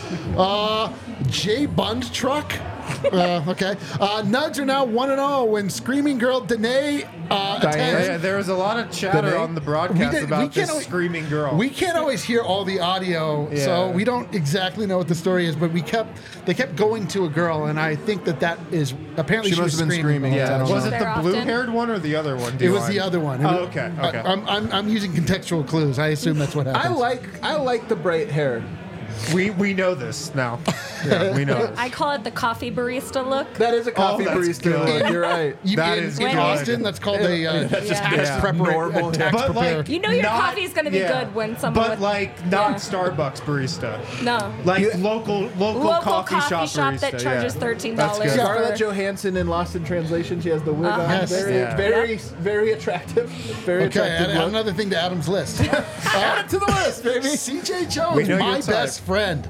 [SPEAKER 2] J Bund Truck. Okay. Nugs are now 1-0 when Screaming Girl Danae attends.
[SPEAKER 3] Yeah, there was a lot of chatter
[SPEAKER 1] Danae?
[SPEAKER 3] on the broadcast
[SPEAKER 2] we
[SPEAKER 3] about
[SPEAKER 2] can't
[SPEAKER 3] this
[SPEAKER 2] always-
[SPEAKER 3] screaming girl.
[SPEAKER 2] We can't always hear all the audio, so
[SPEAKER 3] Yeah.
[SPEAKER 2] we don't exactly know what the story is. But they kept going to a girl, and I think that is apparently
[SPEAKER 1] She
[SPEAKER 2] she was
[SPEAKER 1] must have been screaming.
[SPEAKER 2] the whole
[SPEAKER 1] Yeah.
[SPEAKER 2] time.
[SPEAKER 1] I don't
[SPEAKER 3] was
[SPEAKER 1] know.
[SPEAKER 3] it the
[SPEAKER 6] There
[SPEAKER 3] blue-haired one or the other one?
[SPEAKER 2] It was the other one.
[SPEAKER 3] Oh, okay. Okay.
[SPEAKER 2] I'm using contextual clues. I assume that's what
[SPEAKER 1] I
[SPEAKER 2] happened.
[SPEAKER 1] like the bright hair.
[SPEAKER 3] We know this now. Yeah, we know this.
[SPEAKER 6] I call it the coffee barista look.
[SPEAKER 1] That is a coffee
[SPEAKER 3] that's
[SPEAKER 1] barista.
[SPEAKER 3] good.
[SPEAKER 1] Look, you're right.
[SPEAKER 3] That
[SPEAKER 2] in
[SPEAKER 3] is
[SPEAKER 2] in
[SPEAKER 3] good.
[SPEAKER 2] Austin, that's called a tax
[SPEAKER 6] Yeah.
[SPEAKER 1] Normal.
[SPEAKER 2] tax
[SPEAKER 3] But
[SPEAKER 2] prepare.
[SPEAKER 3] like,
[SPEAKER 6] You know your
[SPEAKER 3] not-
[SPEAKER 6] coffee's gonna be good when someone
[SPEAKER 3] But
[SPEAKER 6] with-
[SPEAKER 3] like not
[SPEAKER 6] Yeah.
[SPEAKER 3] Starbucks barista.
[SPEAKER 6] No.
[SPEAKER 3] Like local
[SPEAKER 6] Local
[SPEAKER 3] coffee shop
[SPEAKER 6] that
[SPEAKER 3] barista,
[SPEAKER 6] charges
[SPEAKER 3] yeah.
[SPEAKER 6] $13
[SPEAKER 3] That's good.
[SPEAKER 6] for-
[SPEAKER 1] Scarlett Johansson in Lost in Translation. She has the wig on.
[SPEAKER 2] Yes.
[SPEAKER 1] Very,
[SPEAKER 3] Yeah.
[SPEAKER 1] very, very attractive. Very
[SPEAKER 2] Okay,
[SPEAKER 1] attractive.
[SPEAKER 2] add
[SPEAKER 1] look.
[SPEAKER 2] another thing to Adam's list.
[SPEAKER 1] Add it to the list, baby.
[SPEAKER 2] CJ
[SPEAKER 3] We
[SPEAKER 2] Jones,
[SPEAKER 3] know
[SPEAKER 2] my
[SPEAKER 3] your type.
[SPEAKER 2] best friend.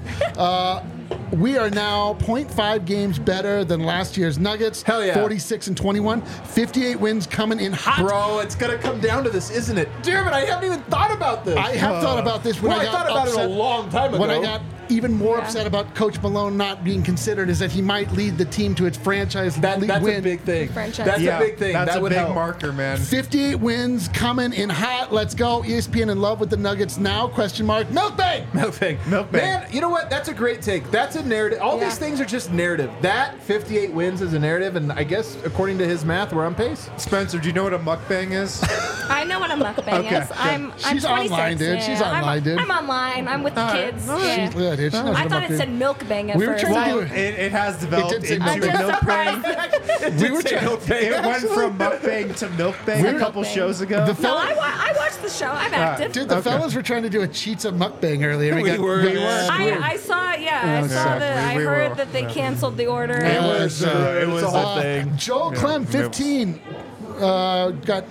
[SPEAKER 2] We are now 0.5 games better than last year's Nuggets.
[SPEAKER 1] Hell yeah.
[SPEAKER 2] 46-21, 58 wins coming in hot.
[SPEAKER 1] Bro, it's gonna come down to this, isn't it? Damn it! I haven't even thought about this.
[SPEAKER 2] I have thought about this when
[SPEAKER 1] Well,
[SPEAKER 2] I
[SPEAKER 1] I
[SPEAKER 2] got
[SPEAKER 1] thought about it
[SPEAKER 2] upset.
[SPEAKER 1] a long time
[SPEAKER 2] When I
[SPEAKER 1] ago.
[SPEAKER 2] got even more
[SPEAKER 6] Yeah.
[SPEAKER 2] upset about Coach Malone not being considered is that he might lead the team to its franchise
[SPEAKER 1] That's
[SPEAKER 2] win.
[SPEAKER 1] a big thing.
[SPEAKER 6] Franchise.
[SPEAKER 1] That's
[SPEAKER 3] Yeah,
[SPEAKER 1] a big thing.
[SPEAKER 3] That's
[SPEAKER 1] that
[SPEAKER 3] a
[SPEAKER 1] would
[SPEAKER 3] big
[SPEAKER 1] help.
[SPEAKER 3] marker, man.
[SPEAKER 2] 58 wins coming in hot. Let's go. ESPN in love with the Nuggets now? Question mark. Milkbang.
[SPEAKER 1] No thing.
[SPEAKER 3] Milk
[SPEAKER 1] Man, you know what? That's a great take. That's a narrative. All
[SPEAKER 6] Yeah.
[SPEAKER 1] these things are just narrative. That 58 wins is a narrative, and I guess according to his math, we're on pace.
[SPEAKER 3] Spencer, do you know what a mukbang is?
[SPEAKER 6] I know what a mukbang
[SPEAKER 3] Okay,
[SPEAKER 6] is.
[SPEAKER 3] good.
[SPEAKER 6] I'm
[SPEAKER 2] She's
[SPEAKER 6] 26.
[SPEAKER 2] online, dude. She's
[SPEAKER 6] I'm-
[SPEAKER 2] online, dude.
[SPEAKER 6] I'm online. I'm with the kids.
[SPEAKER 2] She's
[SPEAKER 6] Yeah.
[SPEAKER 2] good, dude. She knows
[SPEAKER 6] I
[SPEAKER 2] what
[SPEAKER 6] thought
[SPEAKER 2] I'm
[SPEAKER 6] it said
[SPEAKER 2] up
[SPEAKER 6] milkbang at
[SPEAKER 2] We were
[SPEAKER 6] first.
[SPEAKER 2] trying to do
[SPEAKER 3] Well, it has developed
[SPEAKER 2] It did say
[SPEAKER 3] into
[SPEAKER 6] I'm
[SPEAKER 2] milkbang.
[SPEAKER 6] just
[SPEAKER 3] milkbang.
[SPEAKER 6] surprised.
[SPEAKER 2] We were trying.
[SPEAKER 3] It went from mukbang to milkbang a couple
[SPEAKER 6] Milkbang.
[SPEAKER 3] shows ago.
[SPEAKER 2] The
[SPEAKER 6] No,
[SPEAKER 2] fella,
[SPEAKER 6] I watched the show. I'm active.
[SPEAKER 2] dude, the
[SPEAKER 3] Okay.
[SPEAKER 2] fellas were trying to do a cheats of mukbang earlier.
[SPEAKER 1] We were.
[SPEAKER 6] I saw, I saw that. I
[SPEAKER 3] we
[SPEAKER 6] heard
[SPEAKER 3] were.
[SPEAKER 6] that they canceled the order.
[SPEAKER 3] It was
[SPEAKER 1] a whole thing.
[SPEAKER 2] Joel Clem, 15. Got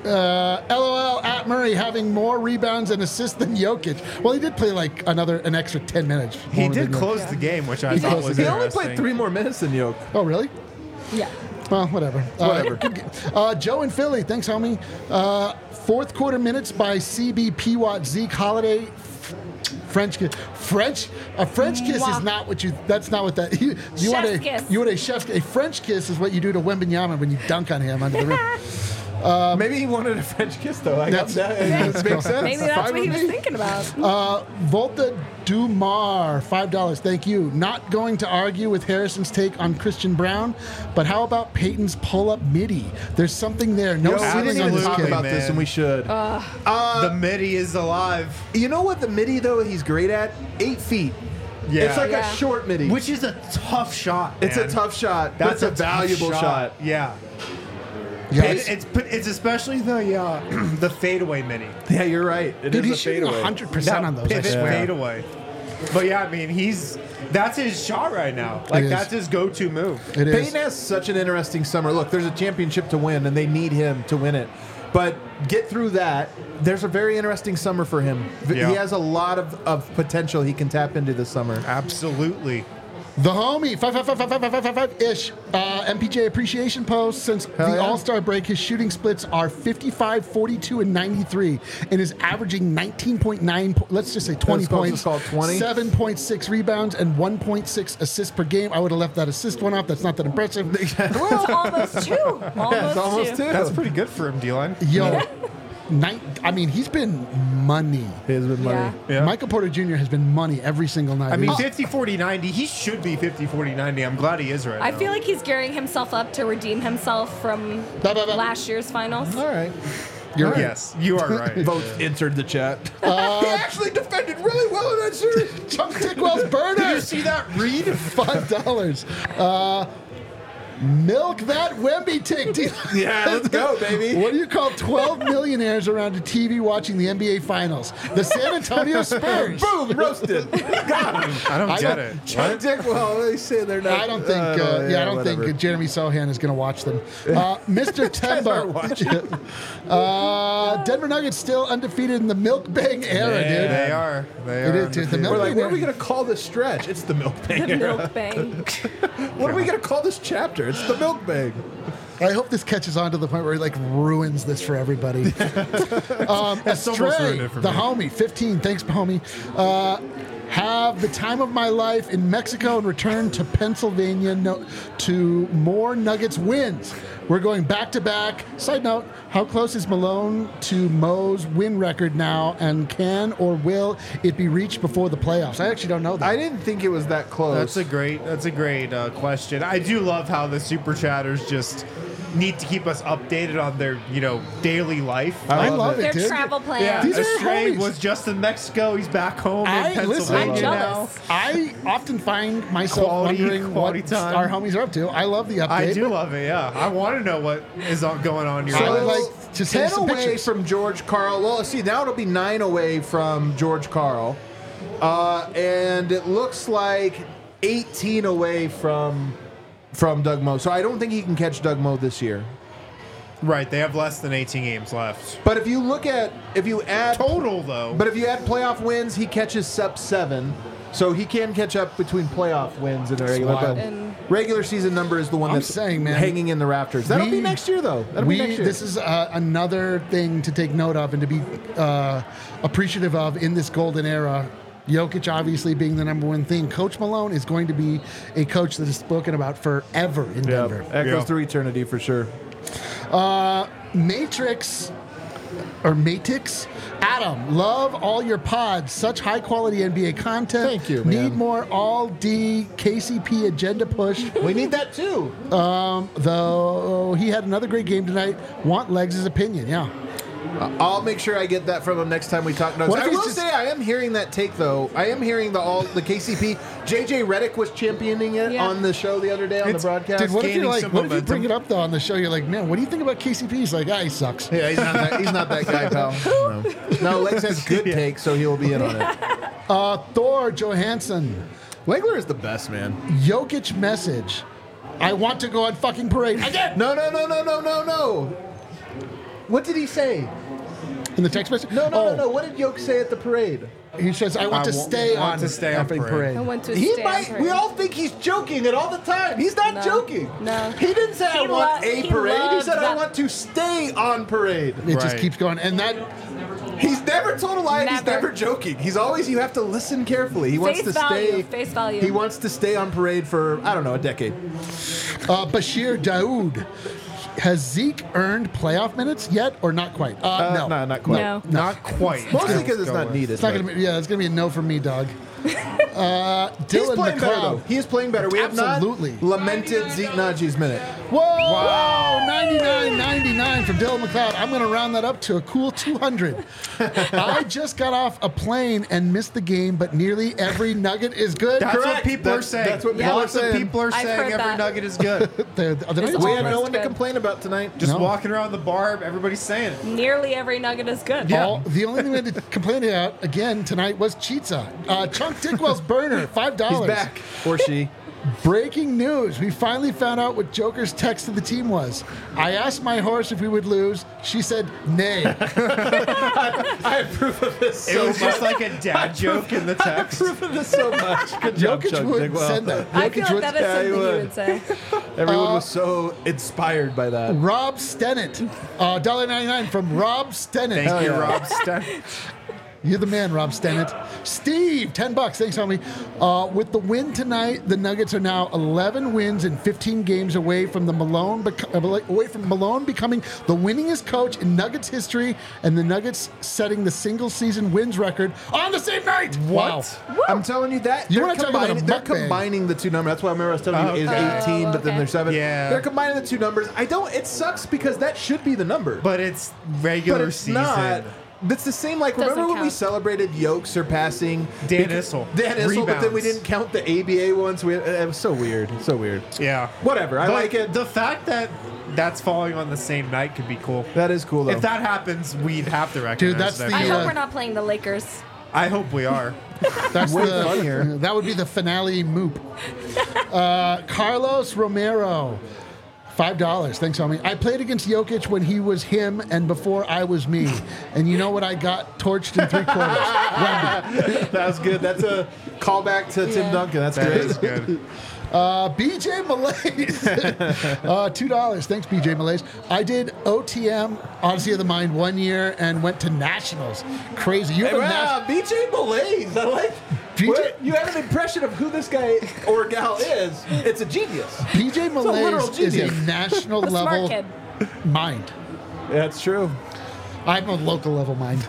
[SPEAKER 2] LOL at Murray having more rebounds and assists than Jokic. Well, he did play like an extra 10 minutes.
[SPEAKER 3] He
[SPEAKER 2] more
[SPEAKER 3] did
[SPEAKER 2] than
[SPEAKER 3] close the game, which I
[SPEAKER 2] He
[SPEAKER 3] thought
[SPEAKER 2] closed
[SPEAKER 3] was
[SPEAKER 2] the
[SPEAKER 1] He
[SPEAKER 2] game.
[SPEAKER 1] only
[SPEAKER 3] interesting.
[SPEAKER 1] played 3 more minutes than Yoke.
[SPEAKER 2] Oh, really?
[SPEAKER 6] Yeah.
[SPEAKER 2] Well, whatever. Joe in Philly, thanks, homie. Fourth quarter minutes by CB Pewat Zeke Holiday. French kiss. A French kiss
[SPEAKER 6] Mwah.
[SPEAKER 2] is not what you. That's not what that. You want
[SPEAKER 6] Chef's kiss.
[SPEAKER 2] You want a chef's. A French kiss is what you do to Wembanyama when you dunk on him under the rim.
[SPEAKER 1] Maybe he wanted a French kiss, though. I got
[SPEAKER 2] That's-
[SPEAKER 1] that. It makes sense.
[SPEAKER 6] Maybe that's
[SPEAKER 1] Fine
[SPEAKER 6] what he
[SPEAKER 1] with
[SPEAKER 6] was
[SPEAKER 1] me.
[SPEAKER 6] thinking about.
[SPEAKER 2] Volta Dumar, $5. Thank you. Not going to argue with Harrison's take on Christian Brown, but how about Peyton's pull-up midi? There's something there. No
[SPEAKER 1] Yo, we
[SPEAKER 2] ceiling
[SPEAKER 1] didn't
[SPEAKER 2] on
[SPEAKER 1] even
[SPEAKER 2] this
[SPEAKER 1] talk
[SPEAKER 2] kid.
[SPEAKER 1] about this,
[SPEAKER 3] man.
[SPEAKER 1] and we should.
[SPEAKER 3] The midi is alive,
[SPEAKER 1] You know what the midi, though, he's great at? 8 feet.
[SPEAKER 3] Yeah.
[SPEAKER 1] It's like
[SPEAKER 6] Yeah.
[SPEAKER 1] a short midi.
[SPEAKER 3] which is a tough shot.
[SPEAKER 1] It's
[SPEAKER 3] man.
[SPEAKER 1] a tough shot.
[SPEAKER 3] That's
[SPEAKER 1] a
[SPEAKER 3] tough
[SPEAKER 1] valuable shot.
[SPEAKER 3] Yeah.
[SPEAKER 2] Yes.
[SPEAKER 3] It's especially the the fadeaway midi.
[SPEAKER 1] Yeah, you're right. It
[SPEAKER 2] Dude,
[SPEAKER 1] is
[SPEAKER 2] he's
[SPEAKER 1] a
[SPEAKER 2] shooting
[SPEAKER 1] fadeaway.
[SPEAKER 2] 100% on those. I
[SPEAKER 3] pivot
[SPEAKER 2] swear.
[SPEAKER 3] fadeaway. But yeah, I mean, that's his shot right now. Like
[SPEAKER 2] is.
[SPEAKER 3] that's his go-to move.
[SPEAKER 2] It is.
[SPEAKER 1] Peyton has such an interesting summer. Look, there's a championship to win, and they need him to win it. But get through that. There's a very interesting summer for him.
[SPEAKER 3] Yeah.
[SPEAKER 1] He has a lot of potential he can tap into this summer.
[SPEAKER 3] Absolutely.
[SPEAKER 2] The homie, 5555555-ish. MPJ appreciation post. Since
[SPEAKER 1] Hell
[SPEAKER 2] the
[SPEAKER 1] yeah.
[SPEAKER 2] All-Star break, his shooting splits are 55, 42, and 93, and is averaging 19.9, let's just say 20
[SPEAKER 1] Let's go,
[SPEAKER 2] points,
[SPEAKER 1] just call it 20.
[SPEAKER 2] 7.6 rebounds, and 1.6 assists per game. I would have left that assist one off. That's not that impressive.
[SPEAKER 6] It's almost two.
[SPEAKER 1] It's almost two.
[SPEAKER 3] That's pretty good for him, D-line.
[SPEAKER 2] Yo, I mean, he's been money.
[SPEAKER 1] His with money.
[SPEAKER 6] Yeah.
[SPEAKER 3] Yeah.
[SPEAKER 2] Michael Porter Jr. has been money every single night.
[SPEAKER 3] I mean,
[SPEAKER 2] He's-
[SPEAKER 3] 50, 40, 90. He should be 50, 40, 90. I'm glad he is right
[SPEAKER 6] I
[SPEAKER 3] now.
[SPEAKER 6] feel like he's gearing himself up to redeem himself from
[SPEAKER 2] Bah, bah, bah.
[SPEAKER 6] last year's finals.
[SPEAKER 1] All right.
[SPEAKER 2] You're right.
[SPEAKER 3] Yes, you are right.
[SPEAKER 1] Votes entered the chat. He actually defended really well in that series.
[SPEAKER 2] Chunk Dickwell's burner.
[SPEAKER 3] Did you see that read?
[SPEAKER 2] $5. Milk that Wemby tick.
[SPEAKER 1] Yeah, let's go, baby.
[SPEAKER 2] What do you call 12 millionaires around a TV watching the NBA Finals? The San Antonio Spurs.
[SPEAKER 1] Boom, roasted. Got him.
[SPEAKER 3] I don't get
[SPEAKER 2] don't-
[SPEAKER 3] it.
[SPEAKER 1] Chuck Dickwell, they say they're not.
[SPEAKER 2] I don't think. I don't think Jeremy Sohan is going to watch them. Mr. Tembo. Denver Nuggets still undefeated in the Milk Bang era,
[SPEAKER 3] Yeah,
[SPEAKER 2] dude.
[SPEAKER 3] they are. They
[SPEAKER 2] It
[SPEAKER 3] are.
[SPEAKER 2] is, dude. The
[SPEAKER 3] undefeated.
[SPEAKER 2] Milk
[SPEAKER 1] We're like,
[SPEAKER 2] Bang
[SPEAKER 1] what are we
[SPEAKER 2] era.
[SPEAKER 1] going to call this stretch? It's the Milk Bang.
[SPEAKER 6] The milk bang.
[SPEAKER 1] What are we going to call this chapter? It's the Milk Bang.
[SPEAKER 2] I hope this catches on to the point where it like ruins this for everybody.
[SPEAKER 3] almost
[SPEAKER 2] Astray,
[SPEAKER 3] ruined it for
[SPEAKER 2] the
[SPEAKER 3] me.
[SPEAKER 2] homie, 15. Thanks, homie. Have the time of my life in Mexico and return to Pennsylvania to more Nuggets wins. We're going back to back. Side note: how close is Malone to Mo's win record now, and can or will it be reached before the playoffs? I actually don't know that.
[SPEAKER 1] I didn't think it was that close.
[SPEAKER 3] That's a great question. I do love how the super chatters just need to keep us updated on their daily life.
[SPEAKER 2] I love
[SPEAKER 6] Their
[SPEAKER 2] it, dude.
[SPEAKER 6] travel plans.
[SPEAKER 3] Yeah,
[SPEAKER 2] These are
[SPEAKER 3] Astray
[SPEAKER 2] homies.
[SPEAKER 3] was just in Mexico. He's back home in Pennsylvania
[SPEAKER 6] I'm
[SPEAKER 3] now.
[SPEAKER 6] jealous.
[SPEAKER 2] I often find myself
[SPEAKER 3] Quality
[SPEAKER 2] wondering what
[SPEAKER 3] time.
[SPEAKER 2] our homies are up to. I love the update.
[SPEAKER 3] I do love it. Yeah, I want to know what is going on in your
[SPEAKER 2] So,
[SPEAKER 3] life.
[SPEAKER 2] like, to see
[SPEAKER 1] 10
[SPEAKER 2] some
[SPEAKER 1] away
[SPEAKER 2] pictures.
[SPEAKER 1] from George Karl. Well, see, now it'll be 9 away from George Karl. And it looks like 18 away from Doug Moe. So I don't think he can catch Doug Moe this year.
[SPEAKER 3] Right, they have less than 18 games left.
[SPEAKER 1] But if you add
[SPEAKER 3] Total though.
[SPEAKER 1] But if you add playoff wins, he catches up 7. So he can catch up between playoff wins and a regular.
[SPEAKER 2] wild.
[SPEAKER 1] But
[SPEAKER 6] And-
[SPEAKER 1] regular season number is the one
[SPEAKER 2] I'm
[SPEAKER 1] that's
[SPEAKER 2] saying, man,
[SPEAKER 1] hanging in the rafters. That'll be next year, though. That'll be next year.
[SPEAKER 2] This is another thing to take note of and to be appreciative of in this golden era. Jokic obviously being the number one thing. Coach Malone is going to be a coach that is spoken about forever in Denver.
[SPEAKER 1] Echoes
[SPEAKER 3] Yeah.
[SPEAKER 1] through eternity for sure.
[SPEAKER 2] Matrix Adam, love all your pods. Such high quality NBA content.
[SPEAKER 1] Thank you, man.
[SPEAKER 2] Need more all D KCP agenda push.
[SPEAKER 1] We need that too.
[SPEAKER 2] Though he had another great game tonight. Want Legs' opinion? Yeah.
[SPEAKER 1] I'll make sure I get that from him next time we talk notes.
[SPEAKER 2] What if
[SPEAKER 1] I
[SPEAKER 2] he's
[SPEAKER 1] will
[SPEAKER 2] just-
[SPEAKER 1] say I am hearing that take though. I am hearing the KCP. JJ Redick was championing it
[SPEAKER 6] Yeah.
[SPEAKER 1] on the show the other day on the broadcast.
[SPEAKER 2] Dude, what if you're
[SPEAKER 3] gaining
[SPEAKER 2] like,
[SPEAKER 3] some
[SPEAKER 2] what if you
[SPEAKER 3] momentum.
[SPEAKER 2] bring it up though on the show? You're like, man, what do you think about KCP? He's like, he sucks.
[SPEAKER 1] Yeah, he's not that guy, pal. No, Legs has good takes, so he will be in on it.
[SPEAKER 2] Thor Johansson,
[SPEAKER 1] Legler is the best, man.
[SPEAKER 2] Jokic message. I want to go on fucking parade again.
[SPEAKER 1] No. What did he say?
[SPEAKER 2] In the text message?
[SPEAKER 1] No. What did Yoke say at the parade?
[SPEAKER 2] He says, I want to stay on effing
[SPEAKER 6] I
[SPEAKER 2] parade.
[SPEAKER 6] went to
[SPEAKER 1] He
[SPEAKER 6] stay
[SPEAKER 1] might.
[SPEAKER 6] on
[SPEAKER 1] We
[SPEAKER 6] parade.
[SPEAKER 1] all think he's joking it all the time. He's not
[SPEAKER 6] No.
[SPEAKER 1] joking.
[SPEAKER 6] No.
[SPEAKER 1] He didn't say I
[SPEAKER 6] He
[SPEAKER 1] want
[SPEAKER 6] lo-
[SPEAKER 1] a
[SPEAKER 6] he
[SPEAKER 1] parade. He
[SPEAKER 6] loved
[SPEAKER 1] said I
[SPEAKER 6] that-
[SPEAKER 1] want to stay on parade.
[SPEAKER 2] It just
[SPEAKER 3] Right.
[SPEAKER 2] keeps going. And that,
[SPEAKER 1] He's never told a lie. and He's
[SPEAKER 6] Never.
[SPEAKER 1] never joking. He's always. You have to listen carefully. He wants
[SPEAKER 6] Face
[SPEAKER 1] to
[SPEAKER 6] value.
[SPEAKER 1] stay.
[SPEAKER 6] Face value.
[SPEAKER 1] He wants to stay on parade for I don't know a decade.
[SPEAKER 2] Bashir Daoud. Has Zeke earned playoff minutes yet or not quite? No.
[SPEAKER 1] No, not quite.
[SPEAKER 6] No.
[SPEAKER 3] Not quite.
[SPEAKER 1] Mostly because it's
[SPEAKER 3] Go
[SPEAKER 1] not
[SPEAKER 3] with.
[SPEAKER 1] needed.
[SPEAKER 2] It's not
[SPEAKER 1] but-
[SPEAKER 2] gonna be, yeah, it's gonna be a no from me, dog.
[SPEAKER 1] He's
[SPEAKER 2] Dylan
[SPEAKER 1] playing better though.
[SPEAKER 2] McLeod.
[SPEAKER 1] He is playing better. We
[SPEAKER 2] Absolutely.
[SPEAKER 1] have not lamented Zeke Najee's minute.
[SPEAKER 2] Whoa! Wow. 99.99 from Dylan McLeod. I'm going to round that up to a cool 200. I just got off a plane and missed the game, but nearly every nugget is good.
[SPEAKER 3] That's what
[SPEAKER 1] Correct.
[SPEAKER 3] people are
[SPEAKER 1] That's-
[SPEAKER 3] saying.
[SPEAKER 1] that's what people are
[SPEAKER 3] Lots of
[SPEAKER 1] saying.
[SPEAKER 3] people are
[SPEAKER 6] I've
[SPEAKER 3] saying
[SPEAKER 6] heard
[SPEAKER 3] every
[SPEAKER 6] that.
[SPEAKER 3] nugget is good.
[SPEAKER 2] The Nuggets
[SPEAKER 1] We
[SPEAKER 2] are
[SPEAKER 1] had
[SPEAKER 2] good.
[SPEAKER 1] no one to
[SPEAKER 6] good.
[SPEAKER 1] complain about tonight.
[SPEAKER 3] Just
[SPEAKER 2] No.
[SPEAKER 3] walking around the bar, everybody's saying it.
[SPEAKER 6] Nearly every nugget is good.
[SPEAKER 3] Yeah.
[SPEAKER 2] The only thing we had to complain about again tonight was Chitza. Chunk Dickwell's burner, $5.
[SPEAKER 1] He's back, or she.
[SPEAKER 2] Breaking news. We finally found out what Joker's text to the team was. I asked my horse if we would lose. She said, nay.
[SPEAKER 1] I approve of this
[SPEAKER 3] It was just like a dad joke in the text.
[SPEAKER 1] approve of this so much. Good job,
[SPEAKER 2] Jokic
[SPEAKER 1] Chuck
[SPEAKER 2] would
[SPEAKER 1] Bigwell.
[SPEAKER 2] send that.
[SPEAKER 6] I feel
[SPEAKER 2] Jokic
[SPEAKER 6] like
[SPEAKER 2] would-
[SPEAKER 6] that is
[SPEAKER 1] Yeah,
[SPEAKER 6] something
[SPEAKER 1] he
[SPEAKER 6] you
[SPEAKER 1] would.
[SPEAKER 6] would say.
[SPEAKER 1] Everyone was so inspired by that.
[SPEAKER 2] Rob Stennett. $1.99 from Rob Stennett.
[SPEAKER 3] Thank you,
[SPEAKER 1] yeah.
[SPEAKER 3] Rob Stein.
[SPEAKER 2] You're the man, Rob Stennett. Steve, $10. Thanks, homie. With the win tonight, the Nuggets are now 11 wins and 15 games away from Malone becoming the winningest coach in Nuggets history, and the Nuggets setting the single-season wins record on the same night.
[SPEAKER 3] What?
[SPEAKER 2] Wow.
[SPEAKER 1] I'm telling you that
[SPEAKER 2] You
[SPEAKER 1] they're
[SPEAKER 2] wanna talk about a
[SPEAKER 1] they're
[SPEAKER 2] mukbang.
[SPEAKER 1] combining the two numbers. That's why I remember I was telling you is
[SPEAKER 3] Okay.
[SPEAKER 1] 18, but then
[SPEAKER 6] okay.
[SPEAKER 1] there's 7.
[SPEAKER 3] Yeah.
[SPEAKER 1] They're combining the two numbers. It sucks because that should be the number.
[SPEAKER 3] But it's
[SPEAKER 1] But
[SPEAKER 3] regular
[SPEAKER 1] it's
[SPEAKER 3] season.
[SPEAKER 1] not. That's the same. Like,
[SPEAKER 6] Doesn't
[SPEAKER 1] remember when we
[SPEAKER 6] count.
[SPEAKER 1] celebrated Yoke surpassing
[SPEAKER 3] Dan Issel.
[SPEAKER 1] Dan Issel, but then we
[SPEAKER 3] Rebounds.
[SPEAKER 1] didn't count the ABA ones. It was so weird. So weird.
[SPEAKER 3] Yeah.
[SPEAKER 1] Whatever. I
[SPEAKER 3] But
[SPEAKER 1] like it.
[SPEAKER 3] The fact that that's falling on the same night could be cool.
[SPEAKER 1] That is cool, though.
[SPEAKER 3] If that happens, we'd have to recognize
[SPEAKER 2] that's
[SPEAKER 3] that.
[SPEAKER 2] the-
[SPEAKER 6] I
[SPEAKER 2] Yeah.
[SPEAKER 6] hope we're not playing the Lakers.
[SPEAKER 3] I hope we are.
[SPEAKER 2] That's
[SPEAKER 1] Way
[SPEAKER 2] the
[SPEAKER 1] funnier.
[SPEAKER 2] That would be the finale moop. Carlos Romero. $5. Thanks, homie. I played against Jokic when he was him and before I was me. And you know what I got torched in 3 quarters? Wemby.
[SPEAKER 1] That was good. That's a callback to Tim
[SPEAKER 6] Yeah.
[SPEAKER 1] Duncan. That's
[SPEAKER 3] That
[SPEAKER 1] great.
[SPEAKER 3] is good.
[SPEAKER 2] BJ Malaise. $2. Thanks, BJ Malaise. I did OTM, Odyssey of the Mind, 1 year and went to Nationals. Crazy. You have a
[SPEAKER 1] Wow, BJ Malaise. I like.
[SPEAKER 2] BJ
[SPEAKER 1] What? You have an impression of who this guy or gal is. It's a genius.
[SPEAKER 2] BJ
[SPEAKER 1] a literal
[SPEAKER 2] Malaise is a
[SPEAKER 1] genius.
[SPEAKER 2] national
[SPEAKER 6] A smart
[SPEAKER 2] level
[SPEAKER 6] kid.
[SPEAKER 2] mind.
[SPEAKER 1] That's true.
[SPEAKER 2] I'm a local level mind.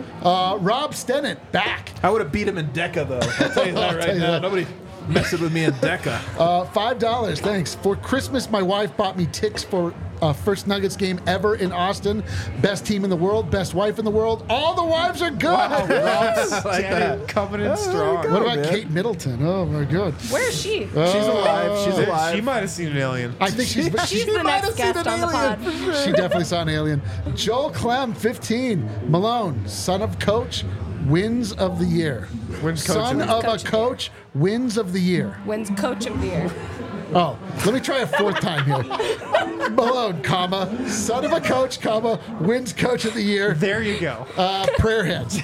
[SPEAKER 2] Rob Stennett, back.
[SPEAKER 1] I would have beat him in Deca, though. I'll tell you that
[SPEAKER 2] I'll
[SPEAKER 1] right
[SPEAKER 2] tell you
[SPEAKER 1] now.
[SPEAKER 2] that.
[SPEAKER 1] Nobody messing with me in Deca.
[SPEAKER 2] $5, thanks. For Christmas, my wife bought me tickets for first Nuggets game ever in Austin. Best team in the world, best wife in the world. All the wives are good.
[SPEAKER 3] Standing, coming in strong.
[SPEAKER 2] What about
[SPEAKER 1] man.
[SPEAKER 2] Kate Middleton? Oh my God.
[SPEAKER 6] Where is she?
[SPEAKER 1] She's alive. She's alive.
[SPEAKER 3] She might have seen an alien.
[SPEAKER 2] I think she's
[SPEAKER 6] She's the
[SPEAKER 1] might
[SPEAKER 6] next
[SPEAKER 1] have seen
[SPEAKER 6] guest
[SPEAKER 1] an
[SPEAKER 6] on the pod.
[SPEAKER 1] alien.
[SPEAKER 2] she definitely saw an alien. Joel Clem, 15. Malone, son of coach, wins of the year.
[SPEAKER 3] Wins coach
[SPEAKER 2] son
[SPEAKER 3] of-
[SPEAKER 2] of
[SPEAKER 6] Coach
[SPEAKER 2] a
[SPEAKER 6] of
[SPEAKER 2] coach, wins of the year.
[SPEAKER 6] Wins coach of the year.
[SPEAKER 2] Oh, let me try a 4th time here. Malone, comma, son of a coach, comma, wins coach of the year.
[SPEAKER 3] There you go.
[SPEAKER 2] Prayer hands.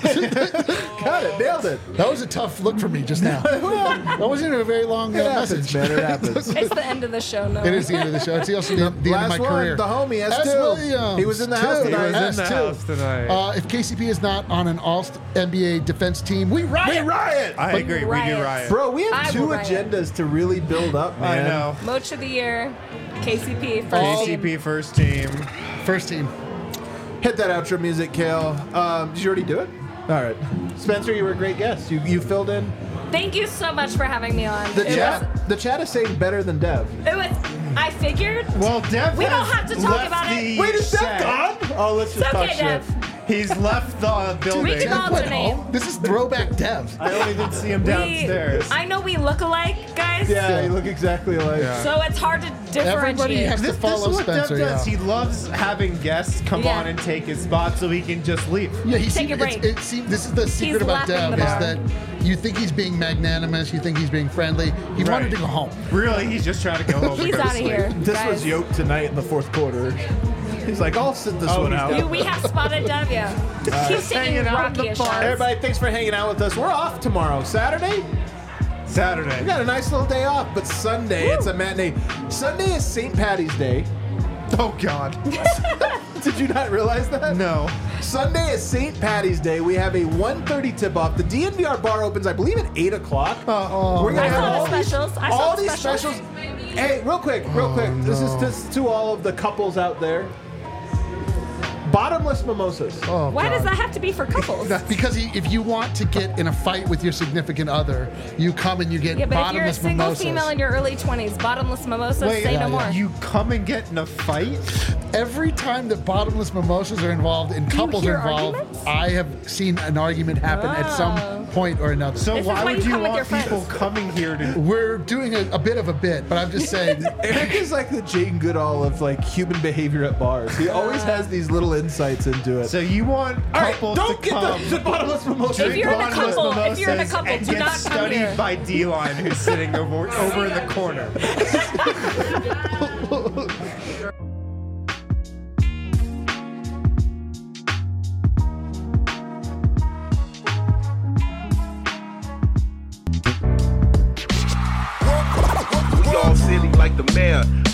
[SPEAKER 1] Got it. Nailed it.
[SPEAKER 2] That was a tough look for me just now. That wasn't even a very long
[SPEAKER 1] It happens,
[SPEAKER 2] message.
[SPEAKER 1] man. It happens.
[SPEAKER 6] It's the end of the show now.
[SPEAKER 2] It is the end of the show. It's also the end of
[SPEAKER 1] Last
[SPEAKER 2] my
[SPEAKER 1] one,
[SPEAKER 2] career.
[SPEAKER 1] the homie, S2.
[SPEAKER 2] S. Williams,
[SPEAKER 1] He was in the house
[SPEAKER 2] two.
[SPEAKER 1] tonight.
[SPEAKER 3] He was in the
[SPEAKER 2] S2.
[SPEAKER 3] house tonight.
[SPEAKER 2] If KCP is not on an All-NBA defense team, we riot.
[SPEAKER 1] We riot.
[SPEAKER 3] I agree. We do
[SPEAKER 6] riot.
[SPEAKER 3] riot.
[SPEAKER 1] Bro, we have
[SPEAKER 6] I
[SPEAKER 1] 2
[SPEAKER 6] will riot.
[SPEAKER 1] agendas to really build up,
[SPEAKER 3] I
[SPEAKER 1] man.
[SPEAKER 3] know.
[SPEAKER 6] Moach of the year, KCP, first team.
[SPEAKER 3] KCP first team.
[SPEAKER 2] First team.
[SPEAKER 1] Hit that outro music, Kale. Did you already do it? All right. Spencer, you were a great guest. You filled in.
[SPEAKER 6] Thank you so much for having me on.
[SPEAKER 1] The chat is saying better than Dev.
[SPEAKER 6] It was. I figured.
[SPEAKER 3] Well, Dev
[SPEAKER 6] We don't
[SPEAKER 3] has
[SPEAKER 6] have to talk
[SPEAKER 3] left
[SPEAKER 6] about it.
[SPEAKER 3] the
[SPEAKER 1] Wait, is Dev
[SPEAKER 3] set.
[SPEAKER 1] gone? Oh, let's just
[SPEAKER 6] It's
[SPEAKER 1] talk
[SPEAKER 6] okay,
[SPEAKER 1] shit.
[SPEAKER 6] Dev.
[SPEAKER 3] He's left the building.
[SPEAKER 6] We can
[SPEAKER 2] Dev went
[SPEAKER 6] alternate.
[SPEAKER 2] home. This is throwback Dev.
[SPEAKER 3] I only did see him downstairs.
[SPEAKER 6] I know we look alike, guys.
[SPEAKER 1] Yeah, you look exactly alike.
[SPEAKER 3] Yeah.
[SPEAKER 6] So it's hard to
[SPEAKER 2] Everybody
[SPEAKER 6] differentiate.
[SPEAKER 2] has to
[SPEAKER 3] This
[SPEAKER 2] follow
[SPEAKER 3] is what
[SPEAKER 2] Spencer.
[SPEAKER 3] Dev does.
[SPEAKER 2] Yeah.
[SPEAKER 3] He loves having guests come
[SPEAKER 6] Yeah.
[SPEAKER 3] on and take his spot so he can just leave.
[SPEAKER 2] Yeah, he
[SPEAKER 6] Take
[SPEAKER 2] seemed,
[SPEAKER 6] a break.
[SPEAKER 2] this is the secret about
[SPEAKER 6] lapping
[SPEAKER 2] Dev
[SPEAKER 6] the
[SPEAKER 2] is
[SPEAKER 6] bar.
[SPEAKER 2] that you think he's being magnanimous, you think he's being friendly. He wanted to go home.
[SPEAKER 3] Really, he's just trying to go home. and
[SPEAKER 6] He's
[SPEAKER 3] go to
[SPEAKER 6] out of
[SPEAKER 3] sleep.
[SPEAKER 6] here.
[SPEAKER 1] This
[SPEAKER 6] guys.
[SPEAKER 1] was Yoke tonight in the 4th quarter. He's like, I'll sit this
[SPEAKER 3] Oh,
[SPEAKER 1] one
[SPEAKER 3] he's
[SPEAKER 1] out.
[SPEAKER 3] down.
[SPEAKER 6] We have spotted Dev, yeah. He's taking
[SPEAKER 3] hanging out in the
[SPEAKER 6] Rocky
[SPEAKER 3] bar.
[SPEAKER 6] shots.
[SPEAKER 1] Everybody, thanks for hanging out with us. We're off tomorrow. Saturday? We
[SPEAKER 3] Saturday.
[SPEAKER 1] got a nice little day off, but Sunday, it's a matinee. Sunday is St. Patty's Day.
[SPEAKER 3] Oh God.
[SPEAKER 1] Did you not realize that?
[SPEAKER 3] No.
[SPEAKER 1] Sunday is St. Patty's Day. We have a 1:30 tip-off. The DNVR bar opens, I believe, at 8 o'clock. We're
[SPEAKER 6] I
[SPEAKER 1] gonna have
[SPEAKER 6] saw
[SPEAKER 1] all
[SPEAKER 6] the specials. I
[SPEAKER 1] all
[SPEAKER 6] saw the
[SPEAKER 1] these specials. Hey, real quick. This is to all of the couples out there. Bottomless mimosas.
[SPEAKER 2] Oh,
[SPEAKER 6] Why
[SPEAKER 2] God.
[SPEAKER 6] does that have to be for couples?
[SPEAKER 2] Because if you want to get in a fight with your significant other, you come and you get
[SPEAKER 6] Yeah, but if you're a
[SPEAKER 2] bottomless
[SPEAKER 6] single
[SPEAKER 2] mimosas.
[SPEAKER 6] female in your early 20s, bottomless mimosas,
[SPEAKER 3] Wait,
[SPEAKER 6] say
[SPEAKER 2] yeah,
[SPEAKER 6] no more.
[SPEAKER 3] You come and get in a fight?
[SPEAKER 2] Every time that bottomless mimosas are involved and
[SPEAKER 6] you
[SPEAKER 2] couples
[SPEAKER 6] hear
[SPEAKER 2] are involved,
[SPEAKER 6] arguments?
[SPEAKER 2] I have seen an argument happen at
[SPEAKER 6] Oh.
[SPEAKER 2] some point or another.
[SPEAKER 3] So
[SPEAKER 6] This is
[SPEAKER 3] why
[SPEAKER 6] why
[SPEAKER 3] would
[SPEAKER 6] you
[SPEAKER 3] you
[SPEAKER 6] come with your
[SPEAKER 3] want people
[SPEAKER 6] friends.
[SPEAKER 3] coming here to?
[SPEAKER 2] We're doing a bit of a bit, but I'm just saying.
[SPEAKER 1] Eric is like the Jane Goodall of like human behavior at bars. He always has these little insights into it.
[SPEAKER 3] So you want
[SPEAKER 1] all right,
[SPEAKER 3] couples
[SPEAKER 1] don't
[SPEAKER 3] to
[SPEAKER 1] get
[SPEAKER 3] come?
[SPEAKER 1] the bottomless mimosa.
[SPEAKER 6] If you're in a
[SPEAKER 3] bottomless
[SPEAKER 6] couple- if you're in a
[SPEAKER 3] mimosas
[SPEAKER 6] couple,
[SPEAKER 3] and
[SPEAKER 6] do
[SPEAKER 3] get
[SPEAKER 6] not come
[SPEAKER 3] studied
[SPEAKER 6] here.
[SPEAKER 3] by D-Line, who's sitting over in the corner.
[SPEAKER 7] We all silly like the mayor.